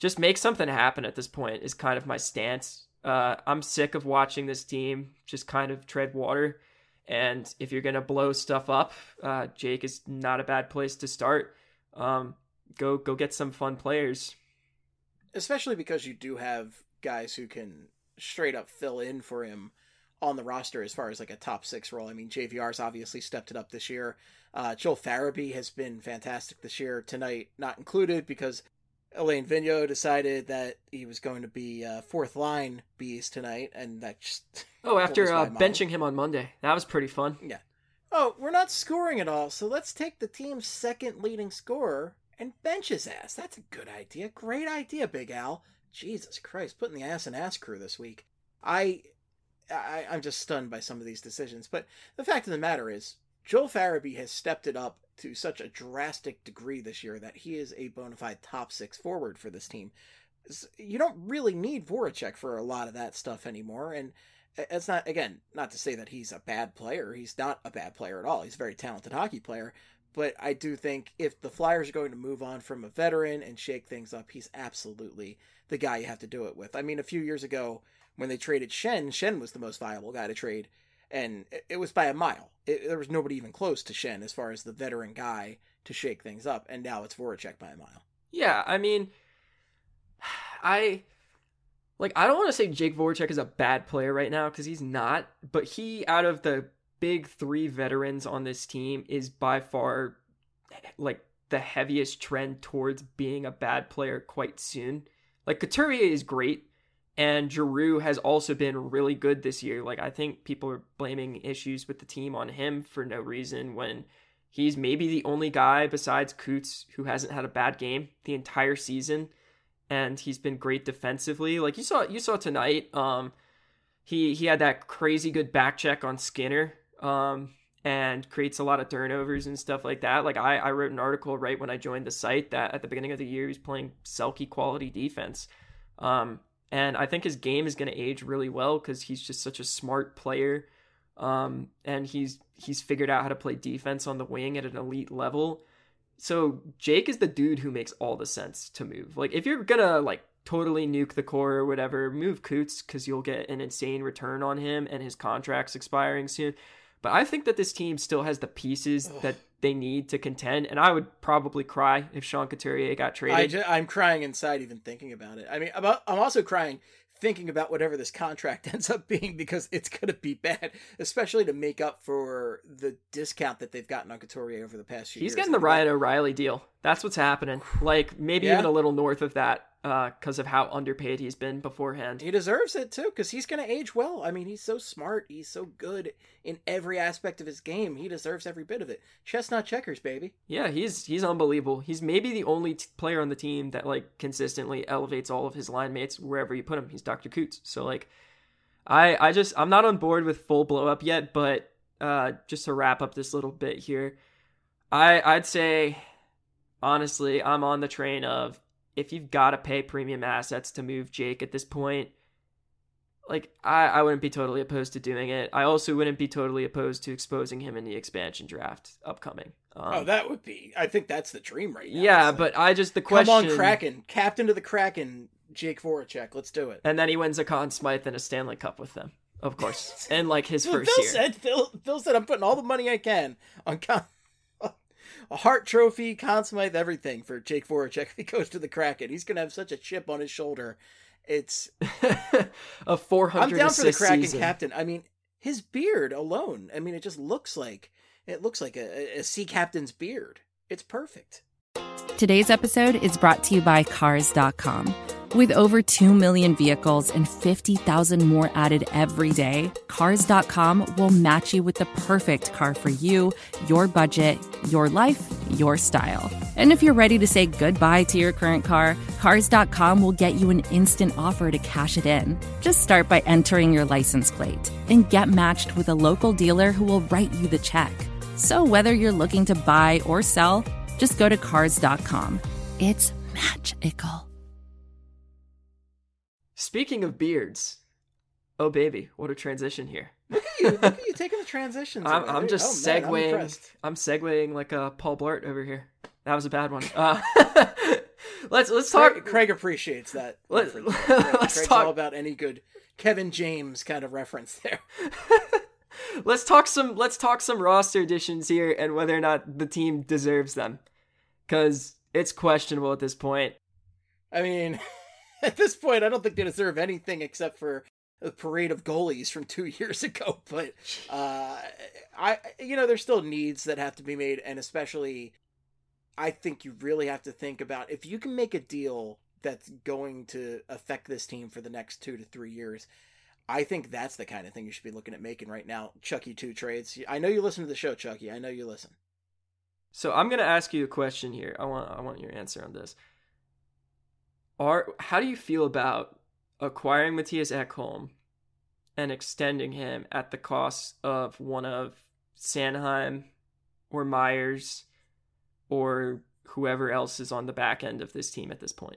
just make something happen at this point is kind of my stance. I'm sick of watching this team just kind of tread water. And if you're going to blow stuff up, Jake is not a bad place to start. Go get some fun players. Especially because you do have guys who can straight up fill in for him on the roster as far as like a top 6 role. I mean, JVR's obviously stepped it up this year. Joel Farabee has been fantastic this year. Tonight, not included because Alain Vigneault decided that he was going to be 4th line bees tonight, and that just... Oh, after benching him on Monday. That was pretty fun. Yeah. Oh, we're not scoring at all, so let's take the team's 2nd leading scorer and bench his ass. That's a good idea. Great idea, Big Al. Jesus Christ, putting the ass in ass crew this week. I'm just stunned by some of these decisions. But the fact of the matter is, Joel Farabee has stepped it up to such a drastic degree this year that he is a bona fide top 6 forward for this team. You don't really need Voracek for a lot of that stuff anymore. And it's not, again, not to say that he's a bad player. He's not a bad player at all. He's a very talented hockey player. But I do think if the Flyers are going to move on from a veteran and shake things up, he's absolutely the guy you have to do it with. I mean, a few years ago when they traded Schenn was the most viable guy to trade. And it was by a mile. There was nobody even close to Schenn as far as the veteran guy to shake things up. And now it's Voracek by a mile. Yeah, I mean, I don't want to say Jake Voracek is a bad player right now because he's not. But he, out of the big 3 veterans on this team, is by far like the heaviest trend towards being a bad player quite soon. Like, Couturier is great. And Giroux has also been really good this year. Like, I think people are blaming issues with the team on him for no reason when he's maybe the only guy besides Coots who hasn't had a bad game the entire season. And he's been great defensively. Like, you saw tonight, he had that crazy good back check on Skinner, and creates a lot of turnovers and stuff like that. Like, I wrote an article right when I joined the site that at the beginning of the year, he's playing Selke quality defense. And I think his game is going to age really well because he's just such a smart player. And he's figured out how to play defense on the wing at an elite level. So Jake is the dude who makes all the sense to move. Like, if you're going to like totally nuke the core or whatever, move Coots because you'll get an insane return on him and his contract's expiring soon. But I think that this team still has the pieces that they need to contend. And I would probably cry if Sean Couturier got traded. I'm crying inside even thinking about it. I mean, I'm also crying thinking about whatever this contract ends up being because it's going to be bad, especially to make up for the discount that they've gotten on Couturier over the past few years. He's getting the Ryan O'Reilly deal. That's what's happening. Like, maybe even a little north of that because of how underpaid he's been beforehand. He deserves it too because he's going to age well. I mean, he's so smart. He's so good in every aspect of his game. He deserves every bit of it. Chestnut checkers, baby. Yeah, he's unbelievable. He's maybe the only player on the team that like consistently elevates all of his line mates wherever you put him. He's Dr. Coots. So like, I'm not on board with full blow up yet, but just to wrap up this little bit here, I'd say honestly, I'm on the train of if you've got to pay premium assets to move Jake at this point, like I wouldn't be totally opposed to doing it. I also wouldn't be totally opposed to exposing him in the expansion draft upcoming. That would be, I think that's the dream right now. Yeah, but the question... Come on, Kraken. Captain to the Kraken, Jake Voracek. Let's do it. And then he wins a Conn Smythe and a Stanley Cup with them, of course. And like his first year. Phil said, I'm putting all the money I can on a Hart Trophy, Conn Smythe, everything for Jake Voracek if he goes to the Kraken. He's going to have such a chip on his shoulder. It's a 400 I'm down for the Kraken season. captain. I mean, his beard alone. I mean, it just looks like a sea captain's beard. It's perfect. Today's episode is brought to you by Cars.com. With over 2 million vehicles and 50,000 more added every day, Cars.com will match you with the perfect car for you, your budget, your life, your style. And if you're ready to say goodbye to your current car, Cars.com will get you an instant offer to cash it in. Just start by entering your license plate and get matched with a local dealer who will write you the check. So whether you're looking to buy or sell, just go to Cars.com. It's magical. Speaking of beards, oh baby, what a transition here. Look at you taking the transitions. I'm just segueing. I'm I'm segueing like a Paul Blart over here. That was a bad one. let's talk. Craig appreciates that. Let's Craig's talk all about any good Kevin James kind of reference there. Let's talk some roster additions here and whether or not the team deserves them, because it's questionable at this point. I mean, at this point, I don't think they deserve anything except for a parade of goalies from 2 years ago. But there's still needs that have to be made, and especially, I think you really have to think about if you can make a deal that's going to affect this team for the next 2 to 3 years. I think that's the kind of thing you should be looking at making right now. Chucky 2 trades. I know you listen to the show, Chucky. I know you listen. So I'm going to ask you a question here. I want your answer on this. How do you feel about acquiring Mattias Ekholm and extending him at the cost of one of Sanheim or Myers or whoever else is on the back end of this team at this point?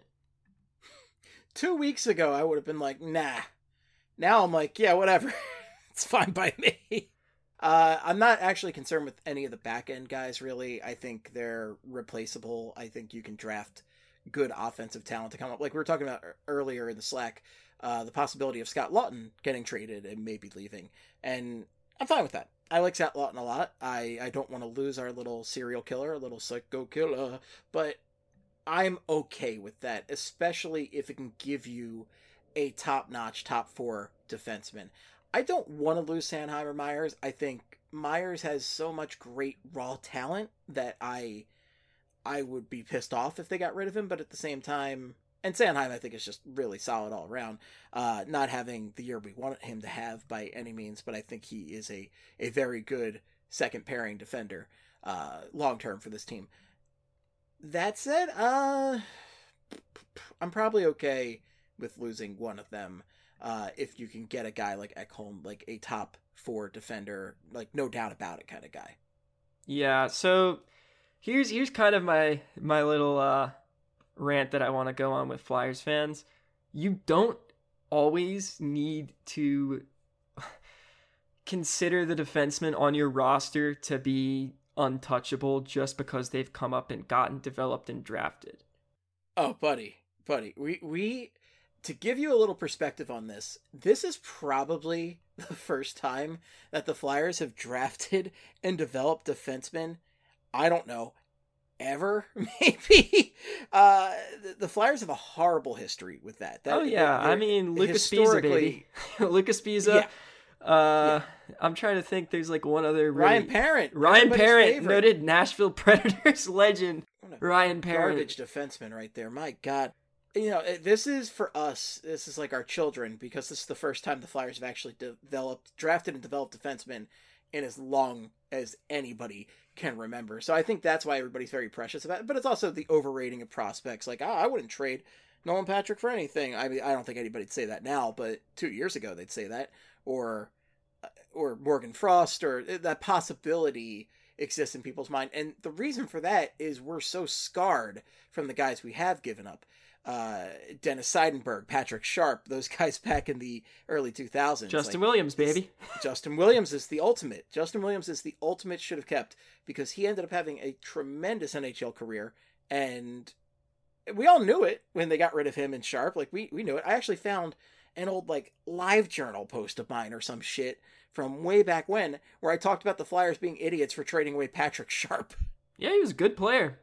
2 weeks ago, I would have been like, nah. Now I'm like, yeah, whatever. It's fine by me. I'm not actually concerned with any of the back end guys, really. I think they're replaceable. I think you can draft good offensive talent to come up. Like we were talking about earlier in the Slack, the possibility of Scott Laughton getting traded and maybe leaving. And I'm fine with that. I like Scott Laughton a lot. I don't want to lose our little serial killer, a little psycho killer, but I'm okay with that, especially if it can give you a top-notch, top 4 defenseman. I don't want to lose Sanheim or Myers. I think Myers has so much great raw talent that I would be pissed off if they got rid of him, but at the same time, and Sanheim I think is just really solid all around. Not having the year we want him to have by any means, but I think he is a very good second pairing defender long-term for this team. That said, I'm probably okay with losing one of them if you can get a guy like Ekholm, like a top 4 defender, like no doubt about it kind of guy. Yeah, so here's kind of my little rant that I want to go on with Flyers fans. You don't always need to consider the defensemen on your roster to be untouchable just because they've come up and gotten developed and drafted. Oh, buddy, we to give you a little perspective on this, this is probably the first time that the Flyers have drafted and developed defensemen, I don't know, ever, maybe. The Flyers have a horrible history with that. I mean, Lucas Pisa, baby. Lucas Pisa. Yeah. I'm trying to think. There's like one other. Ryan Parent, favorite. Noted Nashville Predators legend. Ryan Parent, garbage defenseman right there. My God. This is for us. This is like our children because this is the first time the Flyers have actually drafted and developed defensemen in as long as anybody can remember. So I think that's why everybody's very precious about it. But it's also the overrating of prospects. Like, I wouldn't trade Nolan Patrick for anything. I mean, I don't think anybody'd say that now, but 2 years ago they'd say that. Or Morgan Frost, or that possibility exists in people's mind. And the reason for that is we're so scarred from the guys we have given up. Dennis Seidenberg, Patrick Sharp, those guys back in the early 2000s. Justin Williams, baby. Justin Williams is the ultimate. Justin Williams is the ultimate should have kept because he ended up having a tremendous NHL career, and we all knew it when they got rid of him and Sharp. Like, we knew it. I actually found an old, like, Live Journal post of mine or some shit from way back when where I talked about the Flyers being idiots for trading away Patrick Sharp. Yeah, he was a good player.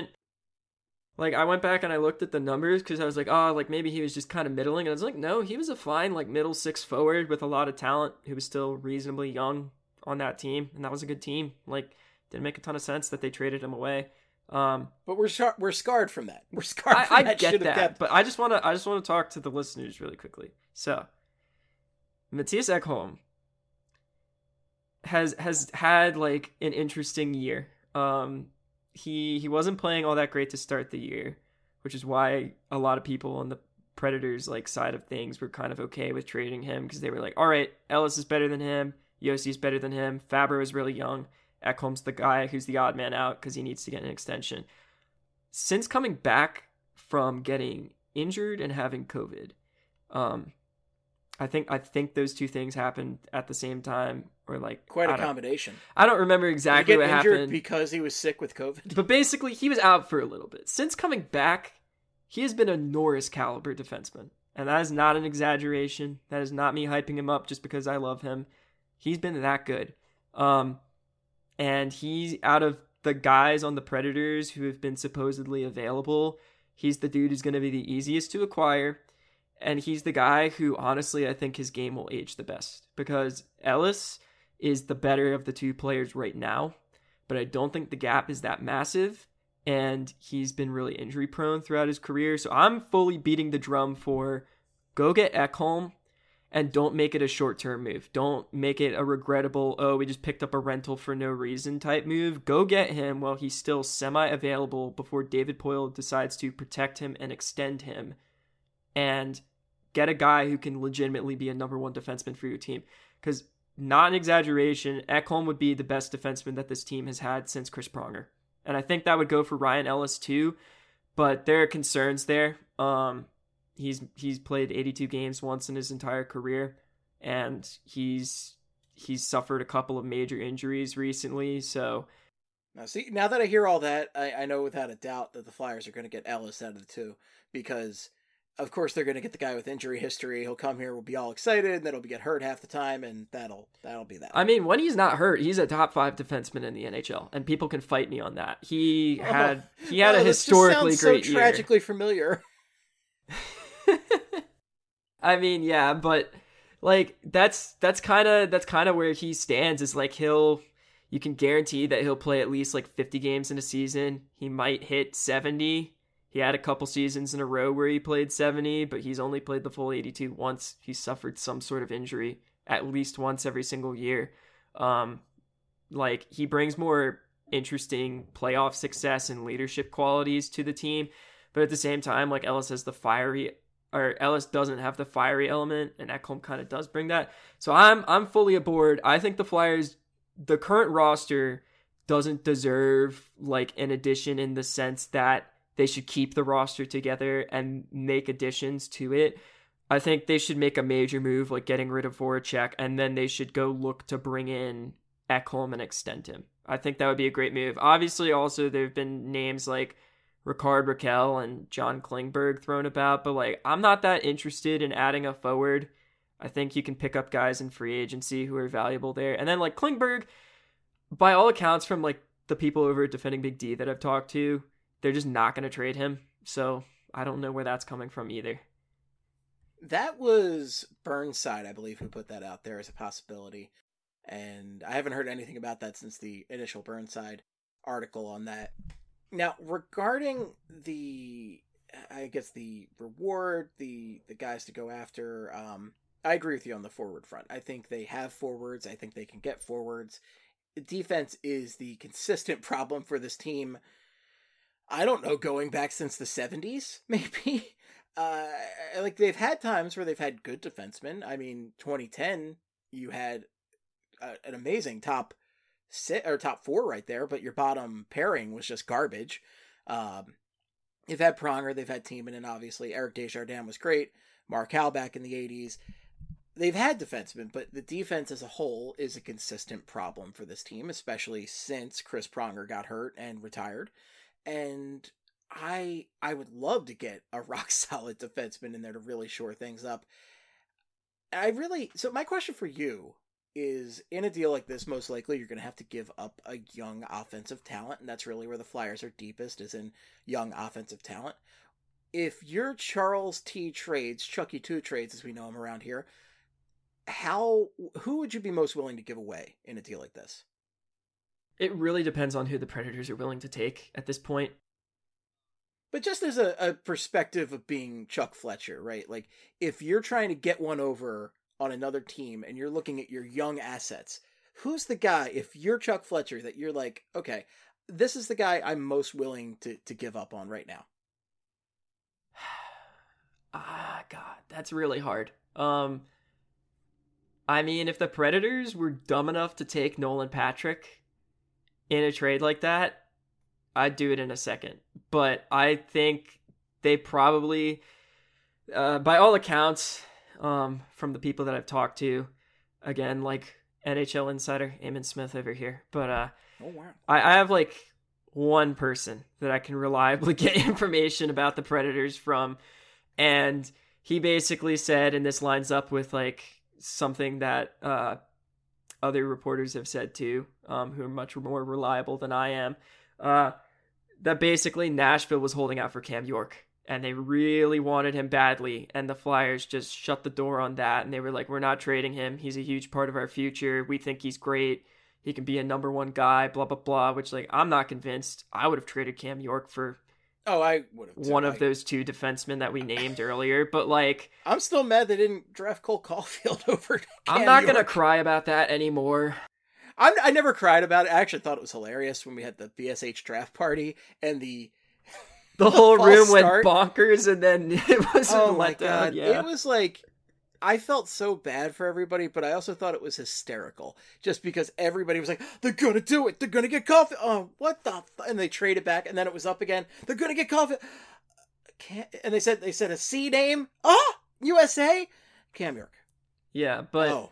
I went back and I looked at the numbers because I was like, maybe he was just kind of middling. And I was like, no, he was a fine, like, middle 6 forward with a lot of talent who was still reasonably young on that team. And that was a good team. Like, didn't make a ton of sense that they traded him away. But we're scarred from that. We're scarred from that. I get that. But I just want to talk to the listeners really quickly. So, Mattias Ekholm has had, like, an interesting year. He wasn't playing all that great to start the year, which is why a lot of people on the Predators like side of things were kind of okay with trading him because they were like, all right, Ellis is better than him, Jossi's better than him, Fabro is really young, Ekholm's the guy who's the odd man out because he needs to get an extension. Since coming back from getting injured and having COVID, I think those two things happened at the same time, or like quite a combination. I don't remember exactly what happened because he was sick with COVID. But basically, he was out for a little bit. Since coming back, he has been a Norris caliber defenseman. And that is not an exaggeration. That is not me hyping him up just because I love him. He's been that good. And he's out of the guys on the Predators who have been supposedly available, he's the dude who's going to be the easiest to acquire. And he's the guy who, honestly, I think his game will age the best. Because Ellis is the better of the two players right now. But I don't think the gap is that massive. And he's been really injury prone throughout his career. So I'm fully beating the drum for go get Ekholm and don't make it a short-term move. Don't make it a regrettable, oh, we just picked up a rental for no reason type move. Go get him while he's still semi-available before David Poile decides to protect him and extend him. And get a guy who can legitimately be a number one defenseman for your team. Because, not an exaggeration, Ekholm would be the best defenseman that this team has had since Chris Pronger. And I think that would go for Ryan Ellis too, but there are concerns there. He's played 82 games once in his entire career, and he's suffered a couple of major injuries recently. So now that I hear all that, I know without a doubt that the Flyers are going to get Ellis out of the two, because of course they're going to get the guy with injury history. He'll come here, we'll be all excited, and then he'll get hurt half the time, and that'll be that. I mean, when he's not hurt, he's a top 5 defenseman in the NHL, and people can fight me on that. He had a historically great year. So tragically familiar. I mean, yeah, but like that's kind of where he stands. Is like you can guarantee that he'll play at least like 50 games in a season. He might hit 70. He had a couple seasons in a row where he played 70, but he's only played the full 82 once. He suffered some sort of injury at least once every single year. Like he brings more interesting playoff success and leadership qualities to the team, but at the same time, like Ellis doesn't have the fiery element, and Ekholm kind of does bring that. So I'm fully aboard. I think the Flyers, the current roster doesn't deserve like an addition in the sense that they should keep the roster together and make additions to it. I think they should make a major move like getting rid of Voracek, and then they should go look to bring in Ekholm and extend him. I think that would be a great move. Obviously, also there have been names like Ricard Raquel and John Klingberg thrown about, but like I'm not that interested in adding a forward. I think you can pick up guys in free agency who are valuable there. And then like Klingberg, by all accounts from like the people over at Defending Big D that I've talked to, they're just not going to trade him. So I don't know where that's coming from either. That was Burnside, I believe, who put that out there as a possibility. And I haven't heard anything about that since the initial Burnside article on that. Now, regarding the reward, the guys to go after, I agree with you on the forward front. I think they have forwards. I think they can get forwards. Defense is the consistent problem for this team. I don't know, going back since the 70s, maybe. Like they've had times where they've had good defensemen. I mean, 2010, you had an amazing top 4 right there, but your bottom pairing was just garbage. They've had Pronger, they've had Timonen, obviously. Eric Desjardins was great. Mark Howe back in the 80s. They've had defensemen, but the defense as a whole is a consistent problem for this team, especially since Chris Pronger got hurt and retired. And I would love to get a rock-solid defenseman in there to really shore things up. So my question for you is, in a deal like this, most likely you're going to have to give up a young offensive talent, and that's really where the Flyers are deepest, is in young offensive talent. If you're Charles T. Trades, Chucky 2 Trades as we know him around here, who would you be most willing to give away in a deal like this? It really depends on who the Predators are willing to take at this point. But just as a perspective of being Chuck Fletcher, right? Like, if you're trying to get one over on another team and you're looking at your young assets, who's the guy, if you're Chuck Fletcher, that you're like, okay, this is the guy I'm most willing to give up on right now? God, that's really hard. I mean, if the Predators were dumb enough to take Nolan Patrick in a trade like that, I'd do it in a second. But I think they probably, by all accounts, from the people that I've talked to, again, like NHL insider Eamon Smith over here, but oh wow, I have like one person that I can reliably get information about the Predators from. And he basically said, and this lines up with like something that other reporters have said too, who are much more reliable than I am, that basically Nashville was holding out for Cam York. And they really wanted him badly. And the Flyers just shut the door on that. And they were like, we're not trading him. He's a huge part of our future. We think he's great. He can be a number one guy, blah, blah, blah. Which, like, I'm not convinced. I would have traded Cam York for I would have one of those two defensemen that we named earlier. But, like... I'm still mad they didn't draft Cole Caulfield over Cam I'm not York. going to cry about that anymore. I never cried about it. I actually thought it was hilarious when we had the BSH draft party and the whole room went start. bonkers, and then it wasn't Oh my let down. god! Yeah. It was like, I felt so bad for everybody, but I also thought it was hysterical, just because everybody was like, "They're gonna do it! They're gonna get coffee!" Oh, what the? And they traded back, and then it was up again. They're gonna get coffee. And they said a C name. Oh, USA, Cam York. Yeah, but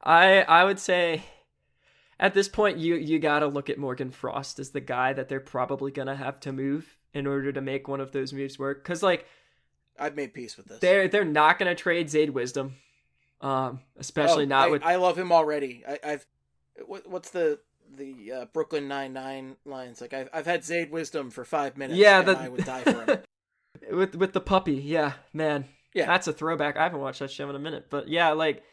I would say at this point you got to look at Morgan Frost as the guy that they're probably gonna have to move in order to make one of those moves work. Because, like, I've made peace with this. They're not going to trade Zayd Wisdom, especially not with... I love him already. What's the Brooklyn Nine-Nine lines? Like, I've had Zayd Wisdom for 5 minutes, and I would die for him. with the puppy, yeah, man. Yeah. That's a throwback. I haven't watched that show in a minute. But, yeah, like,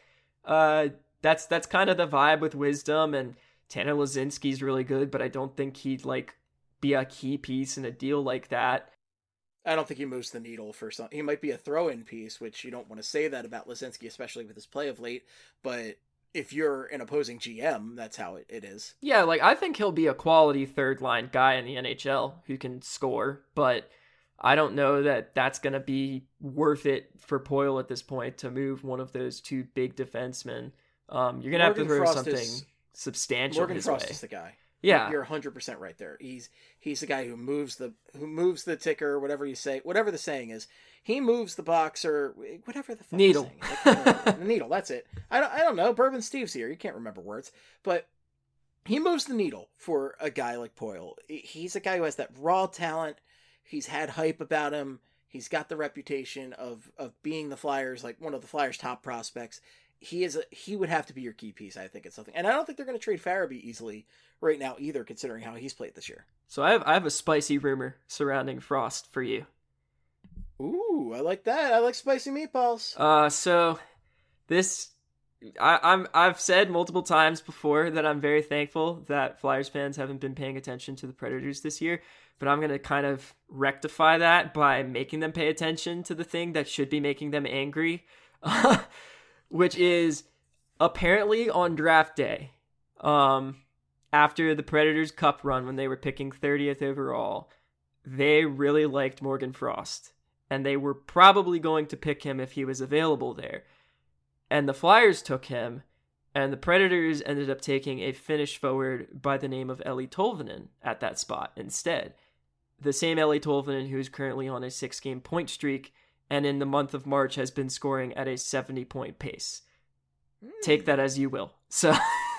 that's kind of the vibe with Wisdom, and Tanner Lazinski's really good, but I don't think he'd, like, be a key piece in a deal like that. I don't think he moves the needle for some. He might be a throw-in piece, which you don't want to say that about Lazinski, especially with his play of late. But if you're an opposing GM, that's how it is. Yeah, like, I think he'll be a quality third-line guy in the NHL who can score, but I don't know that that's going to be worth it for Poile at this point to move one of those two big defensemen. You're going to have to throw something substantial Morgan his Frost way. is the guy. Yeah, you're 100% right there. He's the guy who moves the ticker, whatever you say, whatever the saying is. He moves the box or whatever the fuck needle. The needle. That's it. I don't know. Bourbon Steve's here. You can't remember words, but he moves the needle for a guy like Poile. He's a guy who has that raw talent. He's had hype about him. He's got the reputation of being the Flyers, like one of the Flyers' top prospects. He would have to be your key piece, I think, it's something. And I don't think they're going to trade Farabee easily right now either, considering how he's played this year. So I have a spicy rumor surrounding Frost for you. Ooh, I like that. I like spicy meatballs. So this I've said multiple times before that I'm very thankful that Flyers fans haven't been paying attention to the Predators this year, but I'm going to kind of rectify that by making them pay attention to the thing that should be making them angry. Which is apparently on draft day, after the Predators Cup run when they were picking 30th overall, they really liked Morgan Frost, and they were probably going to pick him if he was available there. And the Flyers took him, and the Predators ended up taking a Finnish forward by the name of Eeli Tolvanen at that spot instead. The same Eeli Tolvanen who's currently on a 6-game point streak, and in the month of March has been scoring at a 70-point pace. Take that as you will. So,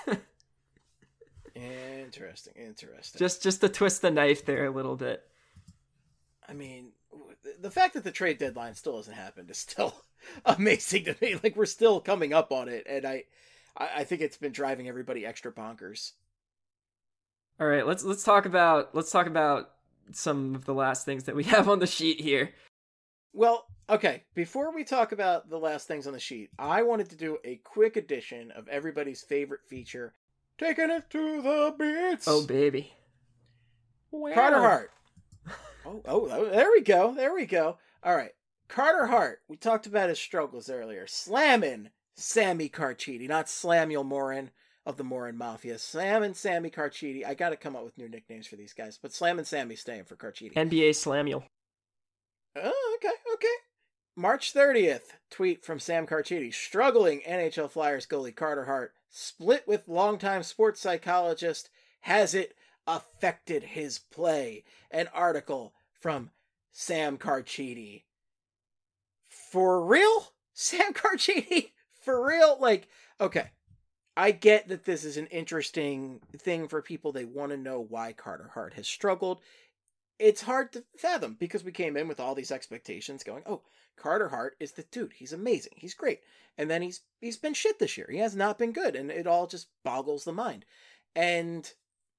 Interesting. Just to twist the knife there a little bit. I mean, the fact that the trade deadline still hasn't happened is still amazing to me. Like, we're still coming up on it, and I think it's been driving everybody extra bonkers. All right, let's talk about some of the last things that we have on the sheet here. Well, okay, before we talk about the last things on the sheet, I wanted to do a quick edition of everybody's favorite feature, Taking It to the Beats. Oh, baby. Carter Hart. Oh, there we go. All right, Carter Hart. We talked about his struggles earlier. Slamming Sammy Carchidi, not Slamuel Morin of the Morin Mafia. Slamming Sammy Carchidi. I got to come up with new nicknames for these guys, but Slamming Sammy staying for Carchidi. NBA Slamuel. Oh, okay. March 30th, tweet from Sam Carchidi. Struggling NHL Flyers goalie Carter Hart, split with longtime sports psychologist. Has it affected his play? An article from Sam Carchidi. For real? Sam Carchidi? For real? Like, okay. I get that this is an interesting thing for people. They want to know why Carter Hart has struggled. It's hard to fathom because we came in with all these expectations going, oh, Carter Hart is the dude. He's amazing. He's great. And then he's been shit this year. He has not been good. And it all just boggles the mind. And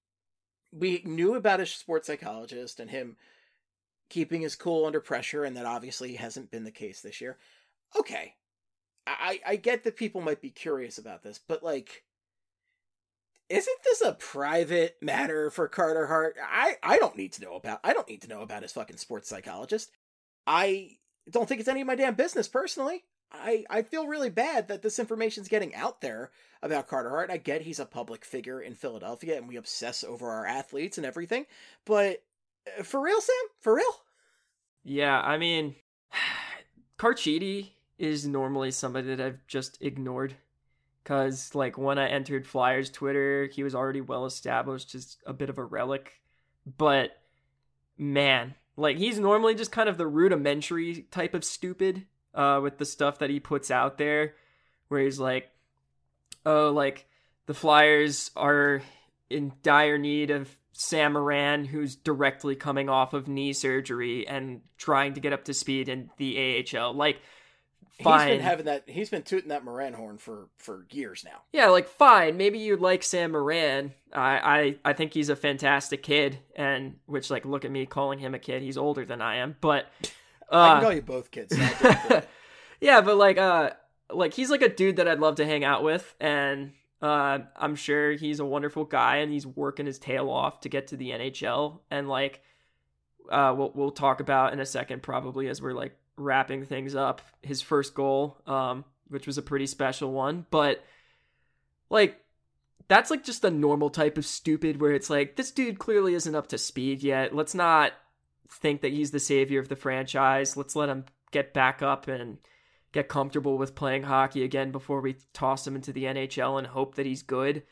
we knew about his sports psychologist and him keeping his cool under pressure. And that obviously hasn't been the case this year. Okay. I get that people might be curious about this, but like, isn't this a private matter for Carter Hart? I don't need to know about his fucking sports psychologist. I don't think it's any of my damn business personally. I feel really bad that this information's getting out there about Carter Hart. I get he's a public figure in Philadelphia and we obsess over our athletes and everything, but for real, Sam? For real? Yeah, I mean, Carchidi is normally somebody that I've just ignored. Because, like, when I entered Flyers Twitter, he was already well established, just a bit of a relic. But, man, like, he's normally just kind of the rudimentary type of stupid with the stuff that he puts out there. Where he's like, oh, like, the Flyers are in dire need of Sam Morin, who's directly coming off of knee surgery and trying to get up to speed in the AHL. Like, fine. He's been tooting that Morin horn for years now. Yeah, like, fine. Maybe you'd like Sam Morin. I think he's a fantastic kid, and which, like, look at me calling him a kid. He's older than I am, but I can call you both kids. yeah, but like he's like a dude that I'd love to hang out with, and I'm sure he's a wonderful guy, and he's working his tail off to get to the NHL, and like we'll talk about in a second probably as we're like wrapping things up, his first goal, which was a pretty special one, but like that's like just a normal type of stupid where it's like, this dude clearly isn't up to speed yet. Let's not think that he's the savior of the franchise. Let's let him get back up and get comfortable with playing hockey again before we toss him into the NHL and hope that he's good.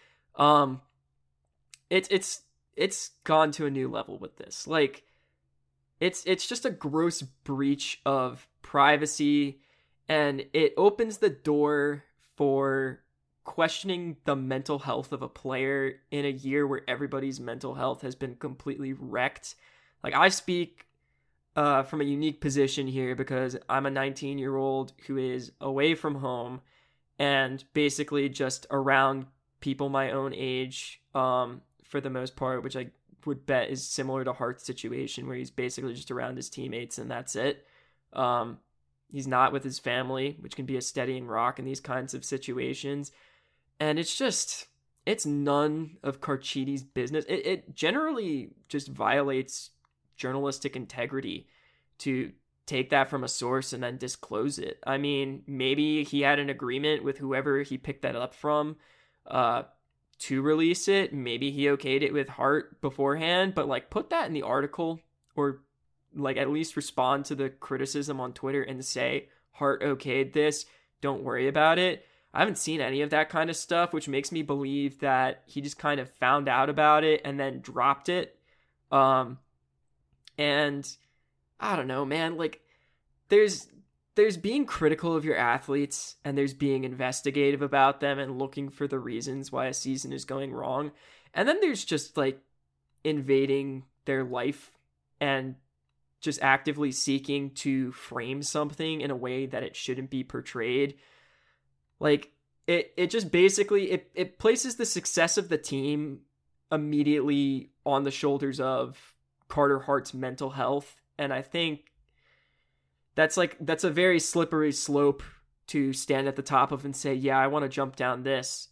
It's gone to a new level with this. Like, It's just a gross breach of privacy, and it opens the door for questioning the mental health of a player in a year where everybody's mental health has been completely wrecked. Like, I speak from a unique position here because I'm a 19-year-old who is away from home and basically just around people my own age for the most part, which I would bet is similar to Hart's situation where he's basically just around his teammates and that's it. He's not with his family, which can be a steadying rock in these kinds of situations. And it's none of Carchidi's business. It generally just violates journalistic integrity to take that from a source and then disclose it. I mean, maybe he had an agreement with whoever he picked that up from, to release it. Maybe he okayed it with Hart beforehand, but like put that in the article, or like at least respond to the criticism on Twitter and say Hart okayed this, don't worry about it. I haven't seen any of that kind of stuff, which makes me believe that he just kind of found out about it and then dropped it. And I don't know, man, like there's being critical of your athletes and there's being investigative about them and looking for the reasons why a season is going wrong. And then there's just like invading their life and just actively seeking to frame something in a way that it shouldn't be portrayed. Like it just basically, it places the success of the team immediately on the shoulders of Carter Hart's mental health. And I think that's a very slippery slope to stand at the top of and say, yeah, I want to jump down this.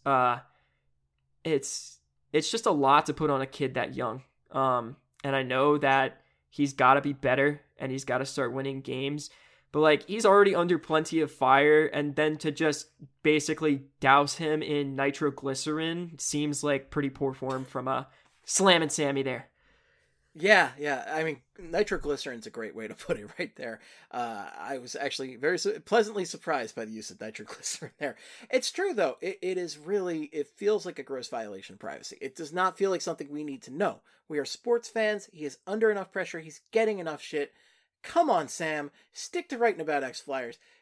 It's just a lot to put on a kid that young. And I know that he's got to be better and he's got to start winning games, but like he's already under plenty of fire, and then to just basically douse him in nitroglycerin seems like pretty poor form from Slam and Sammy there. Yeah. I mean, nitroglycerin's a great way to put it right there. I was actually very pleasantly surprised by the use of nitroglycerin there. It's true, though. It feels like a gross violation of privacy. It does not feel like something we need to know. We are sports fans. He is under enough pressure. He's getting enough shit. Come on, Sam. Stick to writing about ex-Flyers.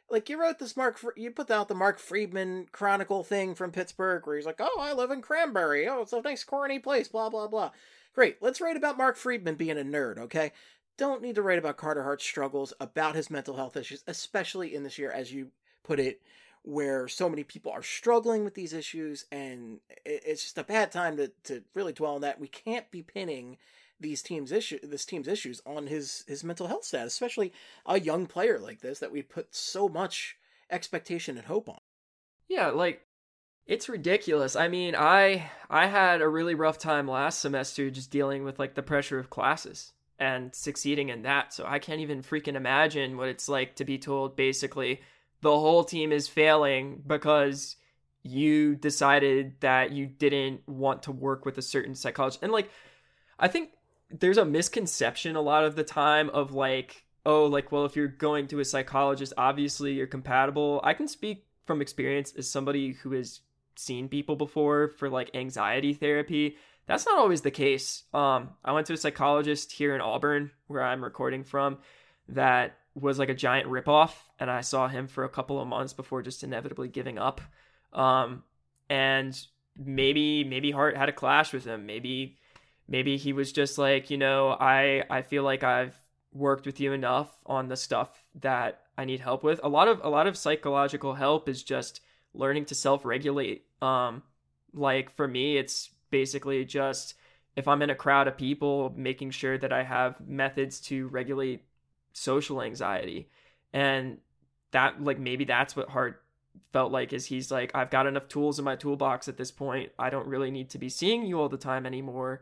Like, you wrote this you put out the Mark Friedman Chronicle thing from Pittsburgh where he's like, oh, I live in Cranberry. Oh, it's a nice corny place, blah, blah, blah. Great. Let's write about Mark Friedman being a nerd, okay? Don't need to write about Carter Hart's struggles, about his mental health issues, especially in this year, as you put it, where so many people are struggling with these issues, and it's just a bad time to really dwell on that. We can't be pinning this team's issues on his mental health status, especially a young player like this that we put so much expectation and hope on. Yeah, like, it's ridiculous. I mean, I had a really rough time last semester just dealing with like the pressure of classes and succeeding in that. So I can't even freaking imagine what it's like to be told basically the whole team is failing because you decided that you didn't want to work with a certain psychologist. And like, I think there's a misconception a lot of the time of like, oh, like, well, if you're going to a psychologist, obviously you're compatible. I can speak from experience as somebody who has seen people before for like anxiety therapy. That's not always the case. I went to a psychologist here in Auburn, where I'm recording from, that was like a giant ripoff, and I saw him for a couple of months before just inevitably giving up. And maybe Hart had a clash with him. Maybe he was just like, you know, I feel like I've worked with you enough on the stuff that I need help with. A lot of psychological help is just learning to self-regulate. Like for me, it's basically just, if I'm in a crowd of people, making sure that I have methods to regulate social anxiety. And that, like, maybe that's what Hart felt like, is he's like, I've got enough tools in my toolbox at this point. I don't really need to be seeing you all the time anymore.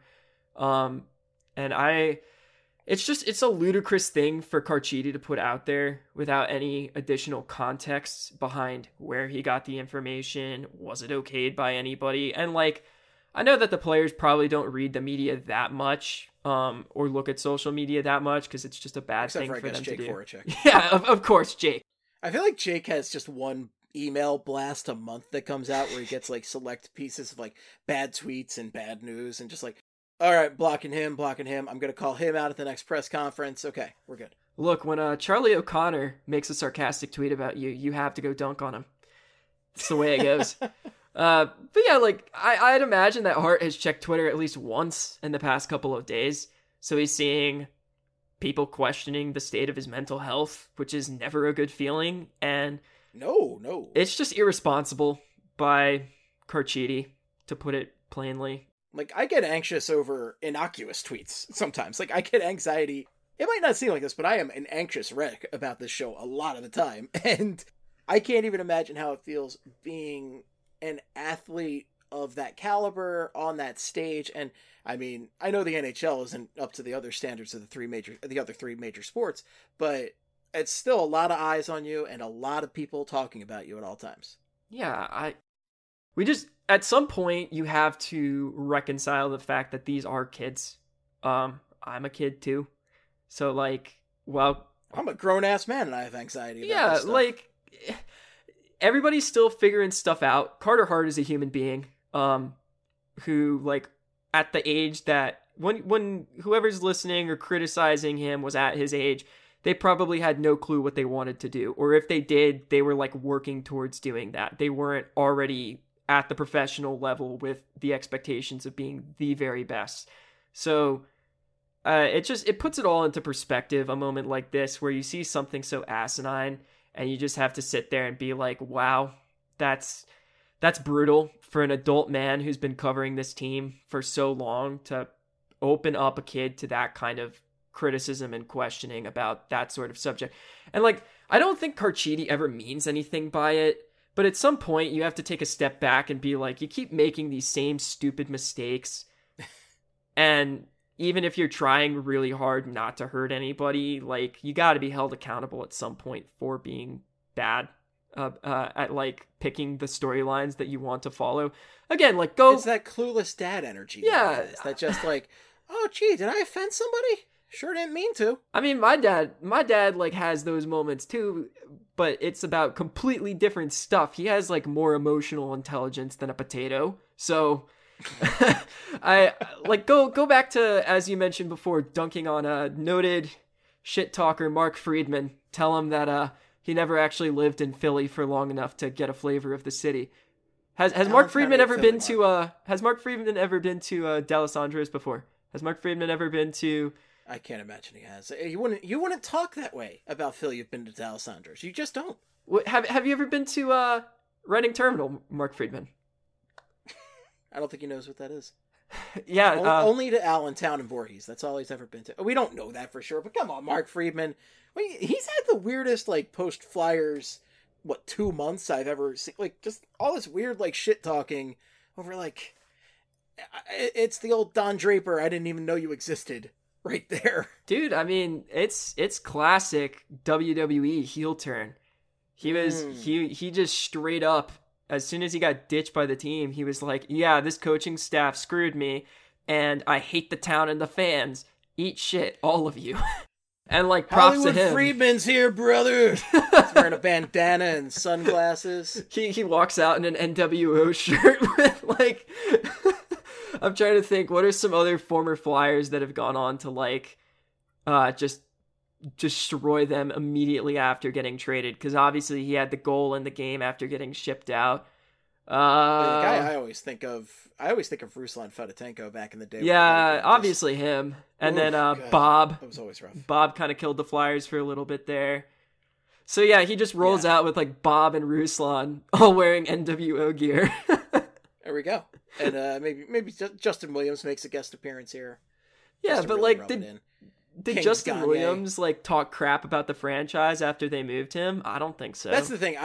It's a ludicrous thing for Carchidi to put out there without any additional context behind where he got the information. Was it okayed by anybody? And like, I know that the players probably don't read the media that much, or look at social media that much, because it's just a bad thing for them to do. Voracek. Yeah, of course, Jake. I feel like Jake has just one email blast a month that comes out where he gets like select pieces of like bad tweets and bad news, and just like, all right, blocking him. I'm going to call him out at the next press conference. Okay, we're good. Look, when Charlie O'Connor makes a sarcastic tweet about you, you have to go dunk on him. It's the way it goes. But yeah, like, I'd imagine that Hart has checked Twitter at least once in the past couple of days. So he's seeing people questioning the state of his mental health, which is never a good feeling. And no, it's just irresponsible by Carchidi, to put it plainly. Like, I get anxious over innocuous tweets sometimes. Like, I get anxiety. It might not seem like this, but I am an anxious wreck about this show a lot of the time. And I can't even imagine how it feels being an athlete of that caliber on that stage. And I mean, I know the NHL isn't up to the other standards of the other three major sports, but it's still a lot of eyes on you and a lot of people talking about you at all times. Yeah, we just, at some point, you have to reconcile the fact that these are kids. I'm a kid too. So like, well, I'm a grown-ass man and I have anxiety about this stuff. Like, everybody's still figuring stuff out. Carter Hart is a human being, who, like, at the age that, when whoever's listening or criticizing him was at his age, they probably had no clue what they wanted to do. Or if they did, they were like working towards doing that. They weren't already at the professional level with the expectations of being the very best. So it puts it all into perspective, a moment like this where you see something so asinine and you just have to sit there and be like, wow, that's brutal for an adult man who's been covering this team for so long to open up a kid to that kind of criticism and questioning about that sort of subject. And like, I don't think Carchidi ever means anything by it, but at some point you have to take a step back and be like, you keep making these same stupid mistakes. And even if you're trying really hard not to hurt anybody, like, you got to be held accountable at some point for being bad at like picking the storylines that you want to follow. Again, like, it's that clueless dad energy. Yeah. That just like, oh gee, did I offend somebody? Sure didn't mean to. I mean, my dad like has those moments too, but it's about completely different stuff. He has like more emotional intelligence than a potato. So I like go back to, as you mentioned before, dunking on a noted shit talker, Mark Friedman. Tell him that He never actually lived in Philly for long enough to get a flavor of the city. Has Mark Friedman ever been to D'Alessandro's before? Has Mark Friedman ever been to? I can't imagine he has. You wouldn't talk that way about Philly. You've been to D'Alessandro's. You just don't. Have you ever been to Reading Terminal, Mark Friedman? I don't think he knows what that is. Yeah, only to Allentown and Voorhees. That's all he's ever been to. We don't know that for sure, but come on, Mark Friedman. He's had the weirdest post Flyers 2 months I've ever seen. Just all this weird shit talking over it's the old Don Draper. I didn't even know you existed right there, dude. I mean, it's classic WWE heel turn. He was he just straight up. As soon as he got ditched by the team, he was like, yeah, this coaching staff screwed me, and I hate the town and the fans. Eat shit, all of you. And props Hollywood to him. Friedman's here, brother. He's wearing a bandana and sunglasses. He walks out in an NWO shirt with I'm trying to think, what are some other former Flyers that have gone on to just destroy them immediately after getting traded? Because obviously he had the goal in the game after getting shipped out. The guy I always think of Ruslan Fedotenko back in the day. Yeah, obviously him. And then Bob. That was always rough. Bob kind of killed the Flyers for a little bit there. So yeah, he just rolls out with Bob and Ruslan all wearing NWO gear. There we go. And maybe Justin Williams makes a guest appearance here. Yeah, but did Justin Williams talk crap about the franchise after they moved him? I don't think so. That's the thing.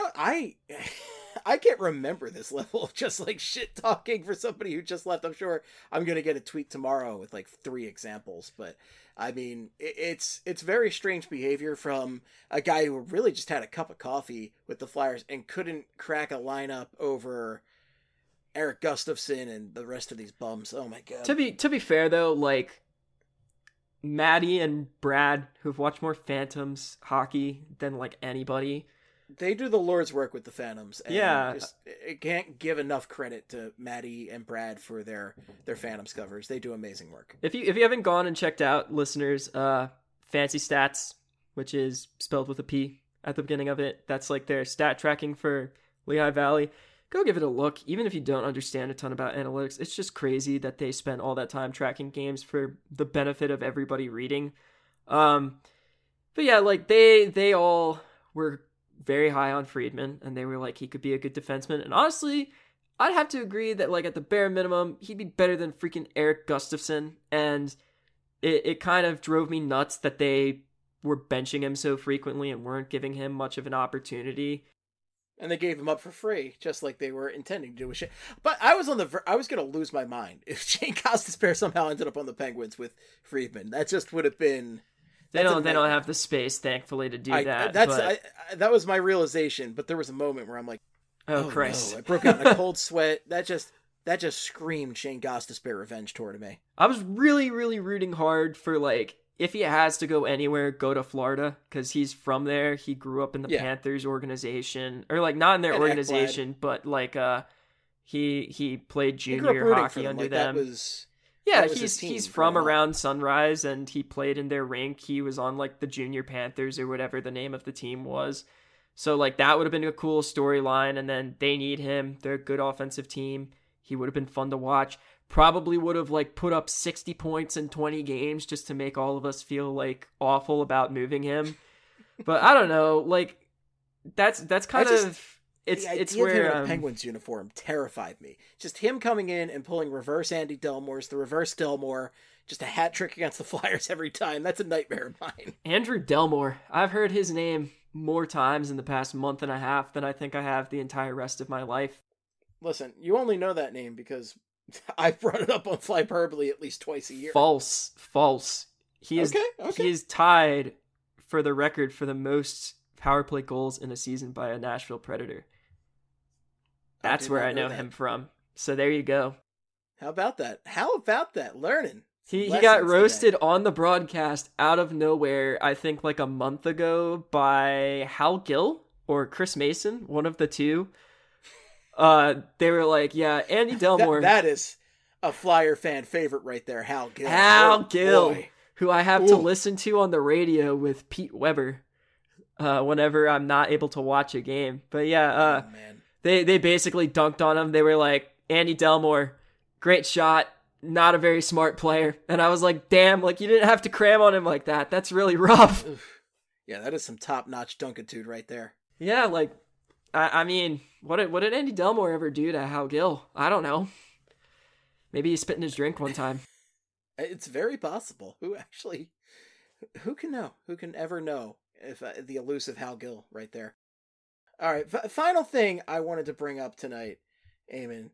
I can't remember this level of just shit talking for somebody who just left. I'm sure I'm gonna get a tweet tomorrow with 3 examples, but I mean it's very strange behavior from a guy who really just had a cup of coffee with the Flyers and couldn't crack a lineup over Eric Gustafson and the rest of these bums. Oh my god. To be fair though, Maddie and Brad, who've watched more Phantoms hockey than anybody, they do the Lord's work with the Phantoms. And yeah, it can't give enough credit to Maddie and Brad for their Phantoms covers. They do amazing work. If you haven't gone and checked out, listeners, Fancy Stats, which is spelled with a P at the beginning of it, that's their stat tracking for Lehigh Valley. Go give it a look. Even if you don't understand a ton about analytics, it's just crazy that they spend all that time tracking games for the benefit of everybody reading. But yeah, they all were very high on Friedman, and they were he could be a good defenseman. And honestly, I'd have to agree that at the bare minimum, he'd be better than freaking Eric Gustafson. And it kind of drove me nuts that they were benching him so frequently and weren't giving him much of an opportunity. And they gave him up for free, just like they were intending to do with Shane. But I was I was going to lose my mind if Shane Gostisbehere somehow ended up on the Penguins with Friedman. That just would have been. They don't have the space, thankfully, to do that. That was my realization. But there was a moment where I'm like, "Oh Christ!" No. I broke out in a cold sweat. That just screamed Shane Gostisbehere revenge toward me. I was really, really rooting hard for if he has to go anywhere, go to Florida, because he's from there. He grew up in the Panthers organization, or not in their organization, but he played junior hockey under them. He's from around Sunrise, and he played in their rink. He was on the Junior Panthers or whatever the name of the team was. So that would have been a cool storyline. And then they need him. They're a good offensive team. He would have been fun to watch. Probably would have put up 60 points in 20 games just to make all of us feel awful about moving him. But I don't know, that's kind of it's where him in a Penguins uniform terrified me. Just him coming in and pulling reverse Andy Delmore's the reverse Delmore, just a hat trick against the Flyers every time. That's a nightmare of mine. Andrew Delmore. I've heard his name more times in the past month and a half than I think I have the entire rest of my life. Listen, you only know that name because I brought it up on Flyperbole at least twice a year. False. He is tied for the record for the most power play goals in a season by a Nashville Predator. That's where I know him from. So there you go. How about that? Learning. He got roasted on the broadcast out of nowhere, I think a month ago, by Hal Gill or Chris Mason, one of the two. They were Andy Delmore. That is a Flyer fan favorite right there, Hal Gill. Hal Gill, who I have to listen to on the radio with Pete Weber. whenever I'm not able to watch a game. But yeah, Oh, man. they basically dunked on him. They were like, Andy Delmore, great shot, not a very smart player. And I was like, damn, like you didn't have to cram on him like that. That's really rough. Yeah, that is some top-notch dunkitude right there. Yeah, like, I mean, what did Andy Delmore ever do to Hal Gill? I don't know. Maybe he spit in his drink one time. It's very possible. Who can know? Who can ever know if the elusive Hal Gill right there? All right, final thing I wanted to bring up tonight, Eamon.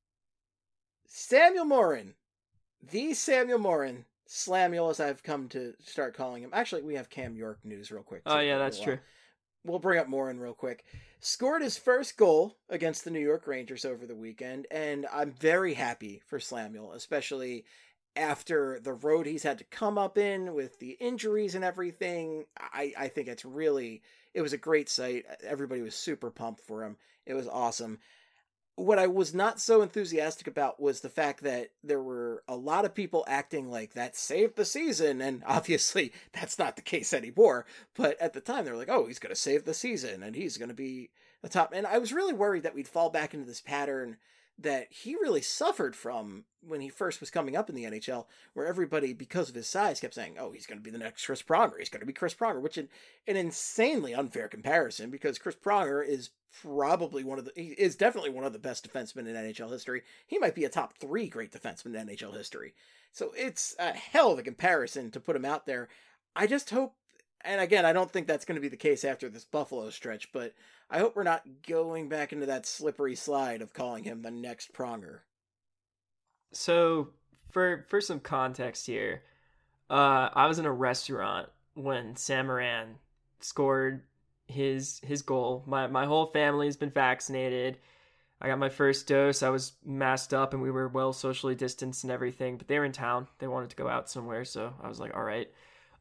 Samuel Morin. The Samuel Morin. Slamuel, as I've come to start calling him. Actually, we have Cam York news real quick. Oh, yeah, that's true. We'll bring up Morin real quick. Scored his first goal against the New York Rangers over the weekend, and I'm very happy for Slamuel, especially after the road he's had to come up in with the injuries and everything. I think it was a great sight. Everybody was super pumped for him. It was awesome. What I was not so enthusiastic about was the fact that there were a lot of people acting like that saved the season, and obviously that's not the case anymore. But at the time, they were like, oh, he's going to save the season, and he's going to be the top. And I was really worried that we'd fall back into this pattern that he really suffered from when he first was coming up in the NHL, where everybody, because of his size, kept saying, oh, he's going to be the next Chris Pronger. He's going to be Chris Pronger, which is an insanely unfair comparison because Chris Pronger is definitely one of the best defensemen in NHL history. He might be a top 3 great defenseman in NHL history. So it's a hell of a comparison to put him out there. I just hope, and again, I don't think that's going to be the case after this Buffalo stretch, but I hope we're not going back into that slippery slide of calling him the next Pronger. So, for some context here, I was in a restaurant when Sam Morin scored his goal. My whole family's been vaccinated. I got my first dose. I was masked up and we were well socially distanced and everything, but they were in town. They wanted to go out somewhere, so I was like, all right.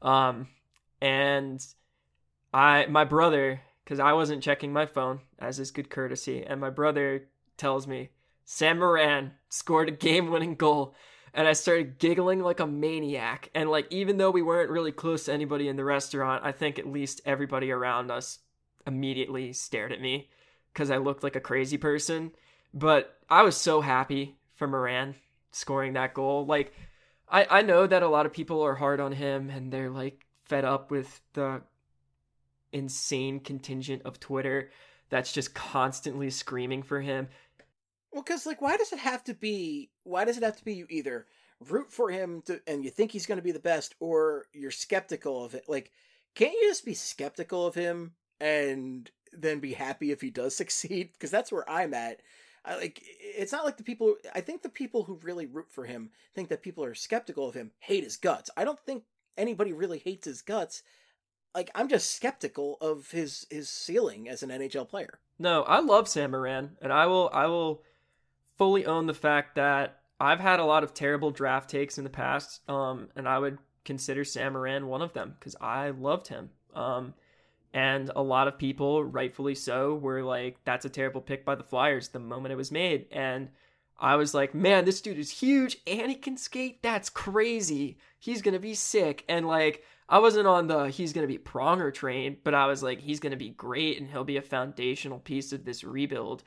And my brother, because I wasn't checking my phone, as is good courtesy, and my brother tells me, Sam Morin scored a game-winning goal, and I started giggling like a maniac. And like, even though we weren't really close to anybody in the restaurant, I think at least everybody around us immediately stared at me because I looked like a crazy person. But I was so happy for Morin scoring that goal. Like, I know that a lot of people are hard on him and they're like fed up with the insane contingent of Twitter that's just constantly screaming for him. Well, because like, why does it have to be you either root for him and you think he's going to be the best, or you're skeptical of it? Like, can't you just be skeptical of him and then be happy if he does succeed? Because that's where I'm at. It's not like I think the people who really root for him think that people are skeptical of him hate his guts. I don't think anybody really hates his guts. Like, I'm just skeptical of his ceiling as an NHL player. No, I love Sam Morin, and I will fully own the fact that I've had a lot of terrible draft takes in the past, and I would consider Sam Morin one of them because I loved him. And a lot of people, rightfully so, were like, that's a terrible pick by the Flyers the moment it was made. And I was like, man, this dude is huge and he can skate. That's crazy. He's going to be sick. And like, I wasn't on the he's going to be Pronger train, but I was like, he's going to be great and he'll be a foundational piece of this rebuild.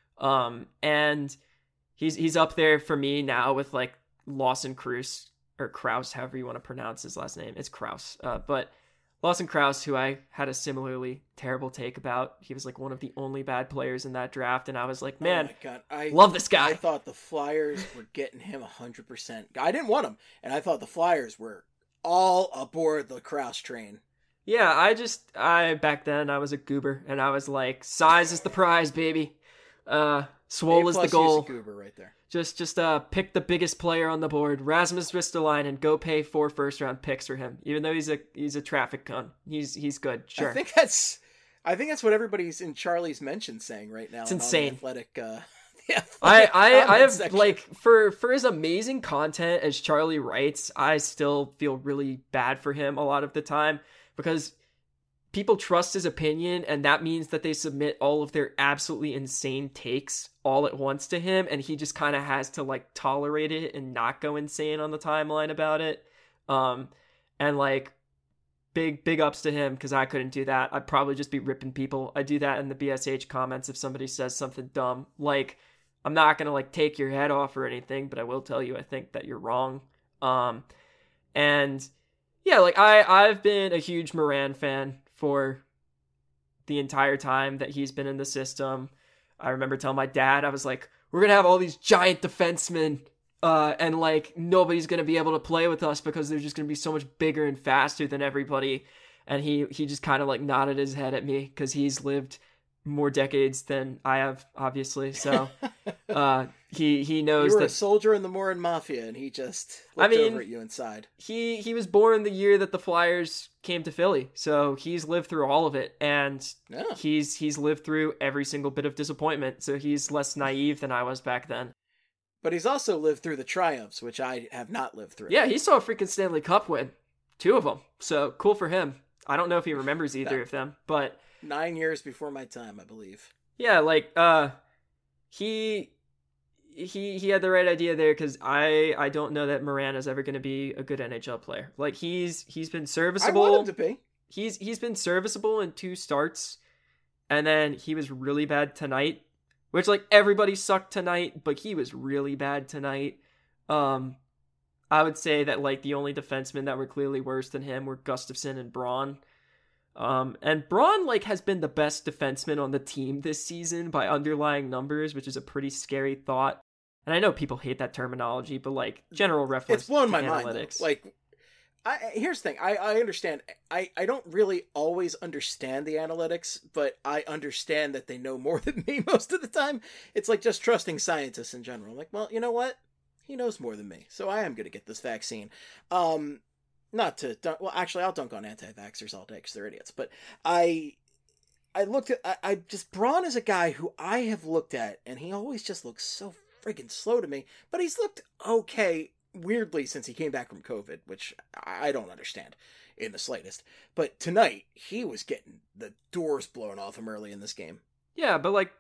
And he's up there for me now with like Lawson Kruse, or Krause, however you want to pronounce his last name. It's Krause. But Lawson Krause, who I had a similarly terrible take about. He was like one of the only bad players in that draft. And I was like, man, oh my God, I love this guy. I thought the Flyers were getting him 100%. I didn't want him. And I thought the Flyers were all aboard the Krause train. Yeah, I back then I was a goober and I was like, size is the prize, baby. Swole is the goal. Goober right there. Just pick the biggest player on the board, Rasmus Ristolainen, and go pay 4 first-round picks for him. Even though he's a traffic cone, he's good. Sure. I think that's what everybody's in Charlie's mention saying right now. It's insane. The athletic. I have section. Like for as amazing content as Charlie writes, I still feel really bad for him a lot of the time because people trust his opinion, and that means that they submit all of their absolutely insane takes all at once to him, and he just kind of has to like tolerate it and not go insane on the timeline about it. And like, big ups to him, because I couldn't do that. I'd probably just be ripping people. I do that in the BSH comments if somebody says something dumb. Like, I'm not gonna like take your head off or anything, but I will tell you I think that you're wrong. And yeah, like I've been a huge Moran fan for the entire time that he's been in the system. I remember telling my dad, I was like, we're gonna have all these giant defensemen, and like nobody's gonna be able to play with us because they're just gonna be so much bigger and faster than everybody. And he just kind of like nodded his head at me, because he's lived more decades than I have, obviously. So he knows you were that a soldier in the Morin Mafia, and he just looked over at you inside. He was born the year that the Flyers came to Philly, so he's lived through all of it, and he's lived through every single bit of disappointment. So he's less naive than I was back then. But he's also lived through the triumphs, which I have not lived through. Yeah, he saw a freaking Stanley Cup win, 2 of them. So cool for him. I don't know if he remembers either of them, but 9 years before my time, I believe. Yeah, like he had the right idea there, because I don't know that Moran is ever going to be a good NHL player. Like he's been serviceable. I want him to be. He's been serviceable in 2 starts, and then he was really bad tonight, which like everybody sucked tonight, but he was really bad tonight. I would say that like the only defensemen that were clearly worse than him were Gustafsson and Braun. And Braun like has been the best defenseman on the team this season by underlying numbers, which is a pretty scary thought. And I know people hate that terminology, but like general reference, it's blown my analytics. mind. Though. Like, here's the thing. I understand. I don't really always understand the analytics, but I understand that they know more than me most of the time. It's like just trusting scientists in general. Like, well, you know what? He knows more than me, so I am going to get this vaccine. Not to dunk, well, actually, I'll dunk on anti-vaxxers all day because they're idiots. But I looked at, I just, Braun is a guy who I have looked at, and he always just looks so friggin' slow to me. But he's looked okay, weirdly, since he came back from COVID, which I don't understand in the slightest. But tonight, he was getting the doors blown off him early in this game. Yeah, but like,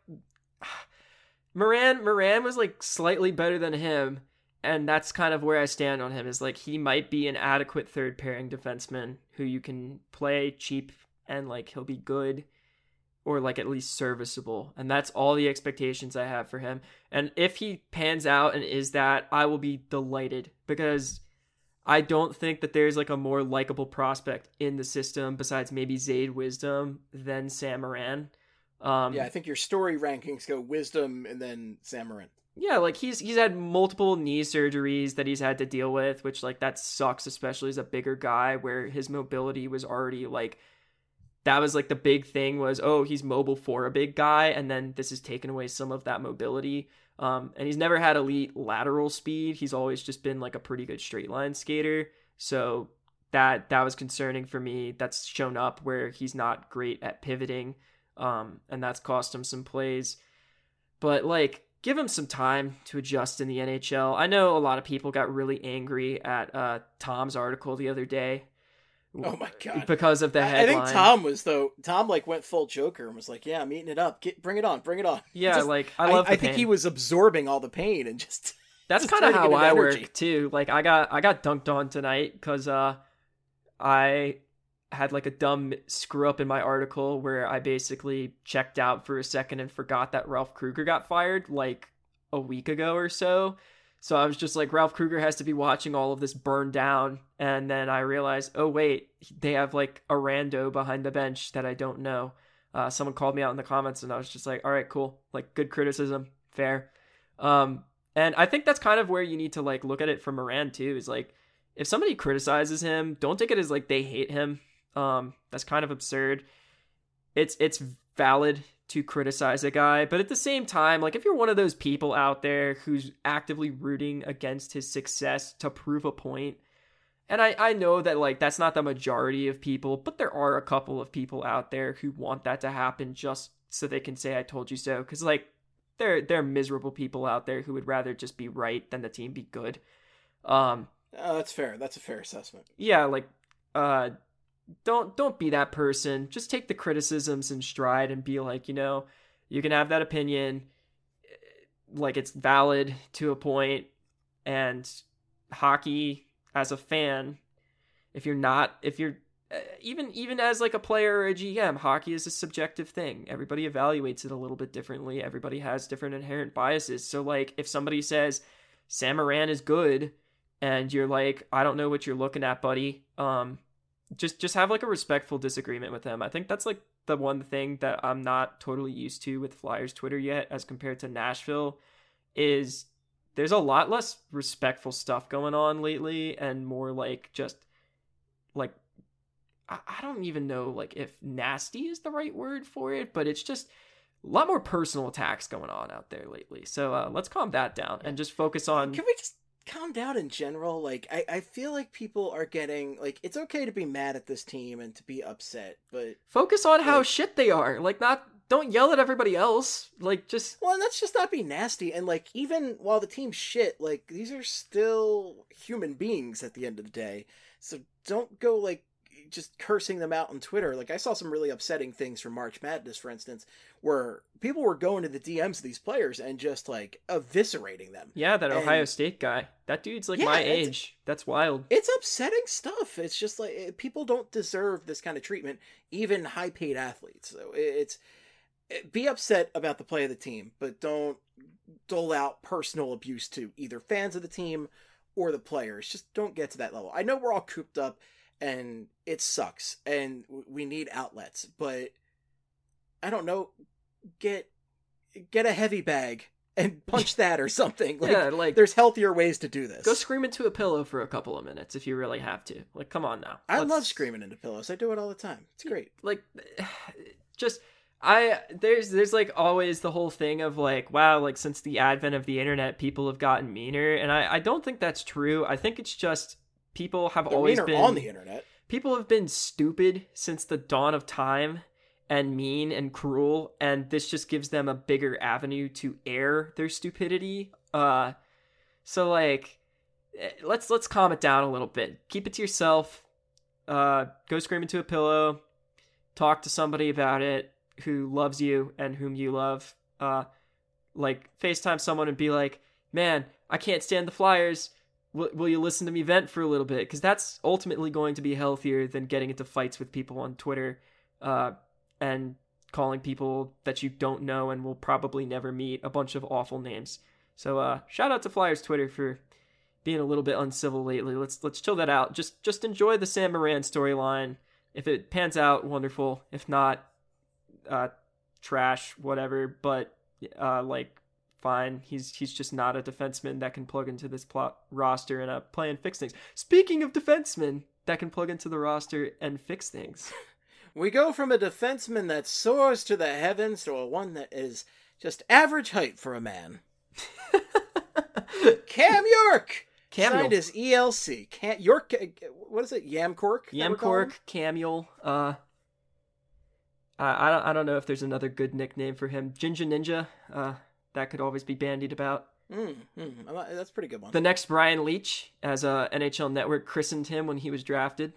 Moran was like slightly better than him. And that's kind of where I stand on him, is like he might be an adequate third pairing defenseman who you can play cheap and like he'll be good or like at least serviceable. And that's all the expectations I have for him. And if he pans out and is that, I will be delighted, because I don't think that there's like a more likable prospect in the system besides maybe Zayd Wisdom than Sam Moran. Yeah, I think your story rankings go Wisdom and then Sam Moran. Yeah, like he's had multiple knee surgeries that he's had to deal with, which like that sucks, especially as a bigger guy where his mobility was already like, that was like the big thing was, oh, he's mobile for a big guy, and then this has taken away some of that mobility. And he's never had elite lateral speed. He's always just been like a pretty good straight line skater. So that was concerning for me. That's shown up where he's not great at pivoting. And that's cost him some plays. But like, give him some time to adjust in the NHL. I know a lot of people got really angry at Tom's article the other day. Oh my God. Because of the headline. I think Tom like went full Joker and was like, yeah, I'm eating it up. Bring it on. Yeah, just, like I love the pain. I think he was absorbing all the pain and just that's kind of how I work too. Like I got dunked on tonight because I had like a dumb screw up in my article where I basically checked out for a second and forgot that Ralph Kruger got fired like a week ago or so. So I was just like, Ralph Kruger has to be watching all of this burn down. And then I realized, oh wait, they have like a rando behind the bench that I don't know. Someone called me out in the comments and I was just like, all right, cool. Like good criticism. Fair. And I think that's kind of where you need to like look at it from Moran too, is like, if somebody criticizes him, don't take it as like they hate him. That's kind of absurd. It's valid to criticize a guy, but at the same time, like if you're one of those people out there who's actively rooting against his success to prove a point, and I know that like that's not the majority of people, but there are a couple of people out there who want that to happen just so they can say I told you so, because like they're miserable people out there who would rather just be right than the team be good. That's fair. That's a fair assessment. Yeah, like don't be that person. Just take the criticisms in stride and be like, you know, you can have that opinion, like it's valid to a point. And hockey as a fan, if you're even as like a player or a GM, hockey is a subjective thing. Everybody evaluates it a little bit differently. Everybody has different inherent biases. So like if somebody says Sam Morin is good and you're like, I don't know what you're looking at, buddy. Just have like a respectful disagreement with them. I think that's like the one thing that I'm not totally used to with Flyers Twitter yet as compared to Nashville is there's a lot less respectful stuff going on lately and more like just like I don't even know like if nasty is the right word for it, but it's just a lot more personal attacks going on out there lately. So let's calm that down and just focus on... Can we just calm down in general? Like, I feel like people are getting... Like, it's okay to be mad at this team and to be upset, but... Focus on how shit they are. Like, don't yell at everybody else. Like, just... Well, and let's just not be nasty. And, like, even while the team's shit, like, these are still human beings at the end of the day. So don't go, like, just cursing them out on Twitter. Like, I saw some really upsetting things from March Madness, for instance, where people were going to the DMs of these players and just, like, eviscerating them. Yeah, that Ohio State guy. That dude's, like, my age. That's wild. It's upsetting stuff. It's just, like, people don't deserve this kind of treatment, even high-paid athletes. So be upset about the play of the team, but don't dole out personal abuse to either fans of the team or the players. Just don't get to that level. I know we're all cooped up, and it sucks, and we need outlets, but I don't know, get a heavy bag and punch that or something. Like, yeah, like there's healthier ways to do this. Go scream into a pillow for a couple of minutes if you really have to. Like, come on now. I love screaming into pillows. I do it all the time. It's great. Like, just there's like always the whole thing of like, wow, like since the advent of the internet, people have gotten meaner, and I don't think that's true. I think it's just people have always been on the internet. People have been stupid since the dawn of time and mean and cruel, and this just gives them a bigger avenue to air their stupidity. So like, let's calm it down a little bit. Keep it to yourself. Go scream into a pillow. Talk to somebody about it who loves you and whom you love. Like FaceTime someone and be like, man, I can't stand the Flyers. Will you listen to me vent for a little bit? Because that's ultimately going to be healthier than getting into fights with people on Twitter and calling people that you don't know and will probably never meet a bunch of awful names. So shout out to Flyers Twitter for being a little bit uncivil lately. Let's chill that out. Just enjoy the Sam Morin storyline. If it pans out, wonderful. If not, trash, whatever. But like, fine. He's just not a defenseman that can plug into this roster and play and fix things. Speaking of defensemen that can plug into the roster and fix things. We go from a defenseman that soars to the heavens to a one that is just average height for a man. Cam York signed his ELC. York, what is it? Yamcork? Yamcork, Camuel. I don't know if there's another good nickname for him. Ginger Ninja. That could always be bandied about. That's a pretty good one. The next Brian Leetch, as NHL Network christened him when he was drafted.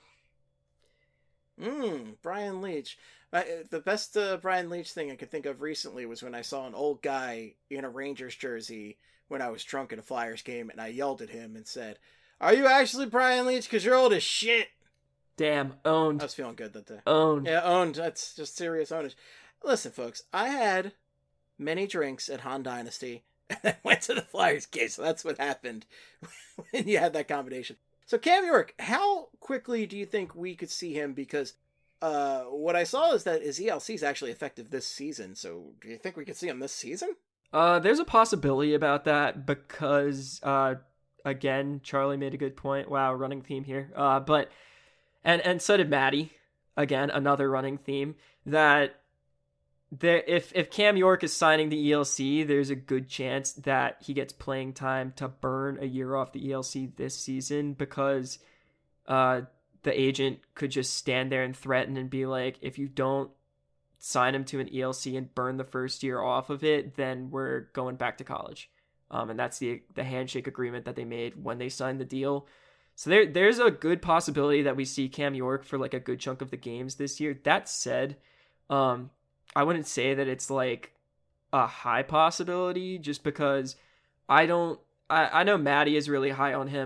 Brian Leetch. The best Brian Leetch thing I could think of recently was when I saw an old guy in a Rangers jersey when I was drunk at a Flyers game, and I yelled at him and said, "Are you actually Brian Leetch? Because you're old as shit." Damn, owned. I was feeling good that day. Owned. Yeah, owned. That's just serious ownage. Listen, folks, I had many drinks at Han Dynasty, and I went to the Flyers game, so that's what happened when you had that combination. So Cam York, how quickly do you think we could see him? Because what I saw is that his ELC is actually effective this season, so do you think we could see him this season? There's a possibility about that because, again, Charlie made a good point. Wow, running theme here. But so did Maddie. Again, another running theme that if Cam York is signing the ELC, there's a good chance that he gets playing time to burn a year off the ELC this season because the agent could just stand there and threaten and be like, if you don't sign him to an ELC and burn the first year off of it, then we're going back to college. And that's the handshake agreement that they made when they signed the deal. So there's a good possibility that we see Cam York for like a good chunk of the games this year. That said, I wouldn't say that it's like a high possibility just because I know Maddie is really high on him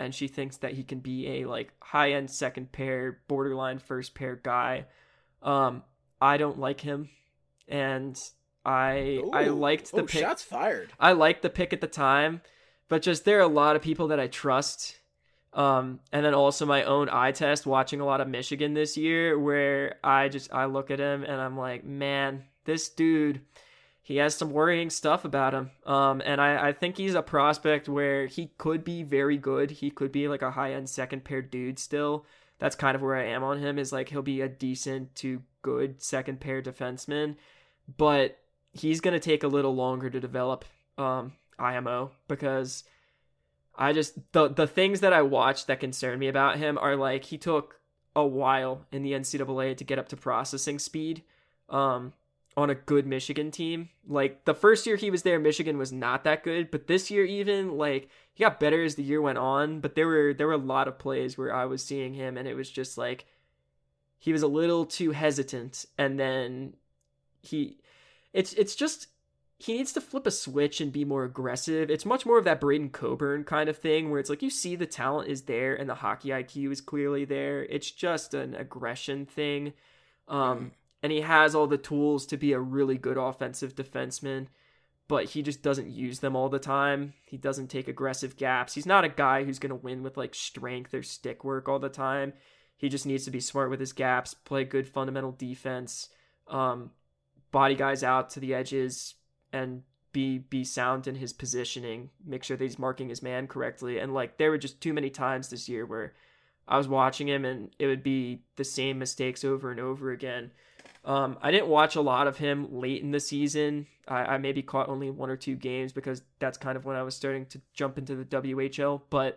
and she thinks that he can be a like high-end second pair, borderline first pair guy. I don't like him, and I liked the pick. Shots fired. I liked the pick at the time, but just there are a lot of people that I trust. And then also my own eye test watching a lot of Michigan this year, where I look at him and I'm like, man, this dude, he has some worrying stuff about him. And I think he's a prospect where he could be very good. He could be like a high-end second pair dude still. That's kind of where I am on him, is like he'll be a decent to good second pair defenseman, but he's going to take a little longer to develop IMO, because I just, the things that I watched that concern me about him are like, he took a while in the NCAA to get up to processing speed on a good Michigan team. Like the first year he was there, Michigan was not that good, but this year even, like, he got better as the year went on, but there were a lot of plays where I was seeing him and it was just like, he was a little too hesitant, and then it's just, he needs to flip a switch and be more aggressive. It's much more of that Braden Coburn kind of thing, where it's like you see the talent is there and the hockey IQ is clearly there. It's just an aggression thing. And he has all the tools to be a really good offensive defenseman, but he just doesn't use them all the time. He doesn't take aggressive gaps. He's not a guy who's going to win with like strength or stick work all the time. He just needs to be smart with his gaps, play good fundamental defense, body guys out to the edges, and be sound in his positioning, make sure that he's marking his man correctly. And like, there were just too many times this year where I was watching him and it would be the same mistakes over and over again. I didn't watch a lot of him late in the season. I maybe caught only 1 or 2 games because that's kind of when I was starting to jump into the WHL, but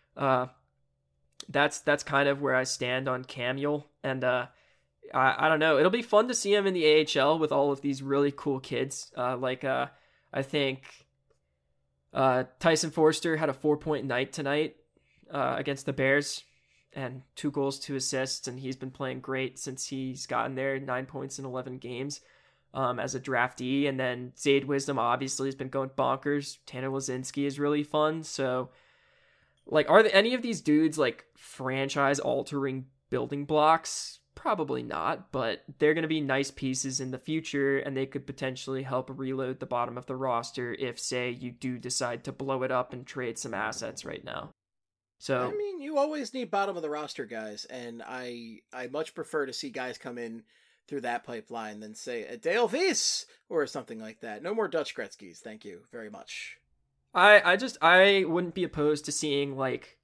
that's kind of where I stand on Camuel. And I don't know. It'll be fun to see him in the AHL with all of these really cool kids. I think Tyson Forster had a 4-point night tonight against the Bears, and 2 goals, 2 assists, and he's been playing great since he's gotten there. 9 points in 11 games as a draftee. And then Zayde Wisdom obviously has been going bonkers. Tanner Lazinski is really fun. So, like, are any of these dudes like franchise-altering building blocks? Probably not, but they're going to be nice pieces in the future, and they could potentially help reload the bottom of the roster if, say, you do decide to blow it up and trade some assets right now. So, I mean, you always need bottom of the roster guys, and I much prefer to see guys come in through that pipeline than, say, a Dale Weiss or something like that. No more Dutch Gretzky's, thank you very much. I wouldn't be opposed to seeing, like,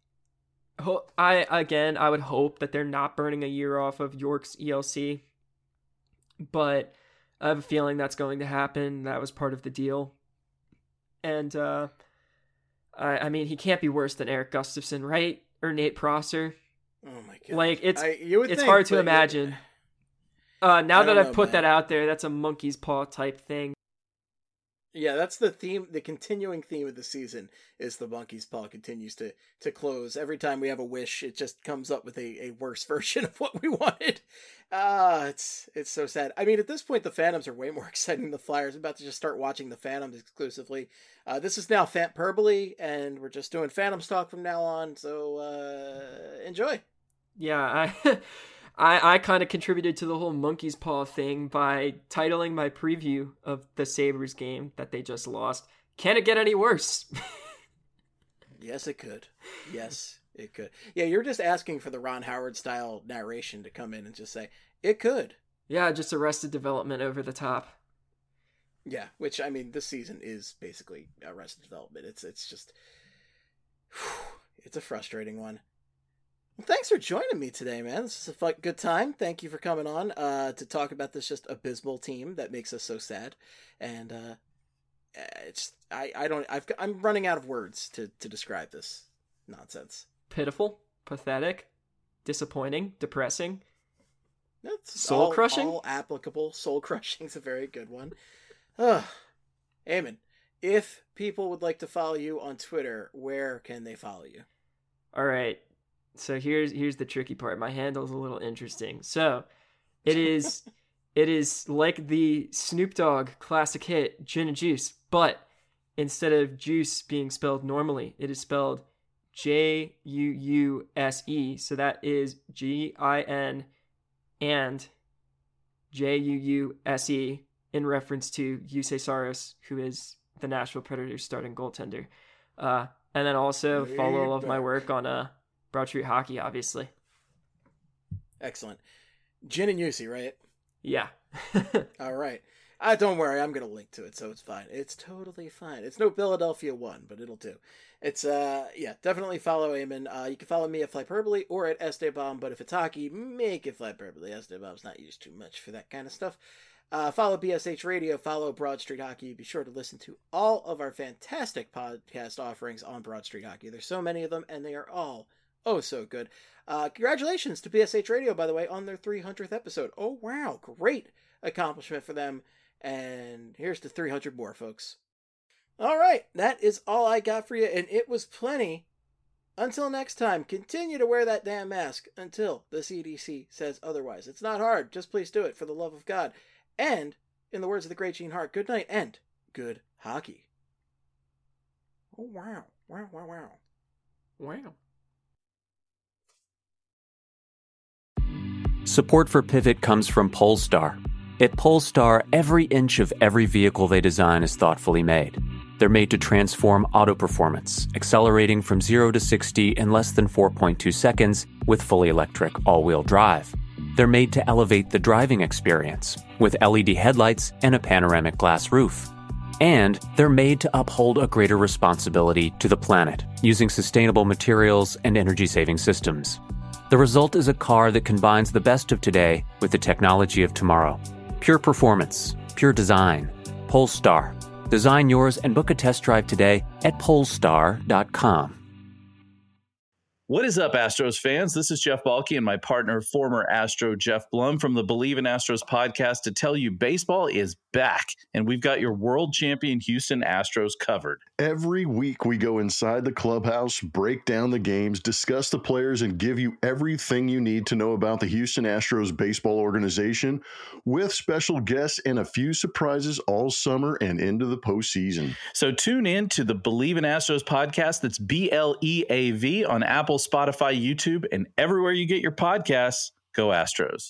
I would hope that they're not burning a year off of York's ELC, but I have a feeling that's going to happen. That was part of the deal. And, I mean, he can't be worse than Eric Gustafson, right? Or Nate Prosser. Oh my God. Like, it's hard to imagine. Now that I've put that out there, that's a monkey's paw type thing. Yeah, that's the theme. The continuing theme of the season is the monkey's paw continues to close. Every time we have a wish, it just comes up with a worse version of what we wanted. It's so sad. I mean, at this point, the Phantoms are way more exciting than the Flyers. I'm about to just start watching the Phantoms exclusively. This is now Phantperbole, and we're just doing Phantoms talk from now on. So enjoy. Yeah, I kind of contributed to the whole monkey's paw thing by titling my preview of the Sabres game that they just lost, "Can it get any worse?" Yes, it could. Yes, it could. Yeah, you're just asking for the Ron Howard style narration to come in and just say, it could. Yeah, just Arrested Development over the top. Yeah, which, I mean, this season is basically Arrested Development. It's just, it's a frustrating one. Well, thanks for joining me today, man. This is a good time. Thank you for coming on to talk about this just abysmal team that makes us so sad. And I'm running out of words to describe this nonsense. Pitiful, pathetic, disappointing, depressing, soul crushing. All applicable. Soul crushing is a very good one. Eamon, if people would like to follow you on Twitter, where can they follow you? All right. So here's the tricky part. My handle is a little interesting. So it is like the Snoop Dogg classic hit Gin and Juice, but instead of juice being spelled normally, it is spelled Juuse. So that is GIN and JUUSE in reference to Yusei Saros, who is the Nashville Predators starting goaltender. And then also follow all of my work on Broad Street Hockey, obviously. Excellent. Gin and Yusi, right? Yeah. All right. Don't worry, I'm going to link to it, so it's fine. It's totally fine. It's no Philadelphia 1, but it'll do. It's, definitely follow Eamon. You can follow me at Flyperbole or at Esteban, but if it's hockey, make it Flyperbole. Esteban's not used too much for that kind of stuff. Follow BSH Radio, follow Broad Street Hockey. Be sure to listen to all of our fantastic podcast offerings on Broad Street Hockey. There's so many of them, and they are all so good. Congratulations to BSH Radio, by the way, on their 300th episode. Oh, wow. Great accomplishment for them. And here's to 300 more, folks. All right. That is all I got for you, and it was plenty. Until next time, continue to wear that damn mask until the CDC says otherwise. It's not hard. Just please do it for the love of God. And, in the words of the great Gene Hart, good night and good hockey. Oh, wow. Wow, wow, wow. Wow. Support for Pivot comes from Polestar. At Polestar, every inch of every vehicle they design is thoughtfully made. They're made to transform auto performance, accelerating from 0 to 60 in less than 4.2 seconds with fully electric all-wheel drive. They're made to elevate the driving experience with LED headlights and a panoramic glass roof. And they're made to uphold a greater responsibility to the planet using sustainable materials and energy-saving systems. The result is a car that combines the best of today with the technology of tomorrow. Pure performance, pure design. Polestar. Design yours and book a test drive today at polestar.com. What is up, Astros fans? This is Jeff Balke and my partner, former Astro Jeff Blum from the Believe in Astros podcast to tell you baseball is back, and we've got your world champion Houston Astros covered. Every week we go inside the clubhouse, break down the games, discuss the players, and give you everything you need to know about the Houston Astros baseball organization with special guests and a few surprises all summer and into the postseason. So tune in to the Believe in Astros podcast. That's BLEAV on Apple, Spotify, YouTube, and everywhere you get your podcasts. Go Astros.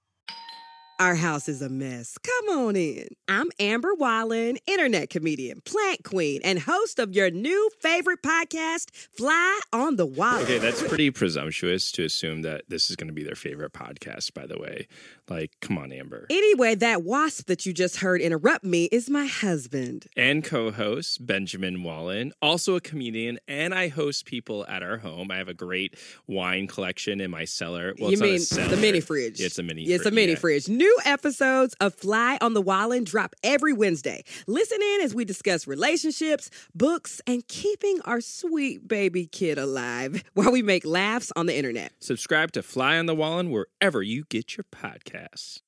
Our house is a mess. Come on in. I'm Amber Wallen, internet comedian, plant queen, and host of your new favorite podcast, Fly on the Wallen. Okay, that's pretty presumptuous to assume that this is going to be their favorite podcast, by the way. Like, come on, Amber. Anyway, that wasp that you just heard interrupt me is my husband. And co-host, Benjamin Wallen, also a comedian, and I host people at our home. I have a great wine collection in my cellar. Well, you mean the mini fridge? Yeah, it's a mini fridge. It's a mini fridge. New episodes of Fly on the Wallen drop every Wednesday. Listen in as we discuss relationships, books, and keeping our sweet baby kid alive while we make laughs on the internet. Subscribe to Fly on the Wallen wherever you get your podcasts.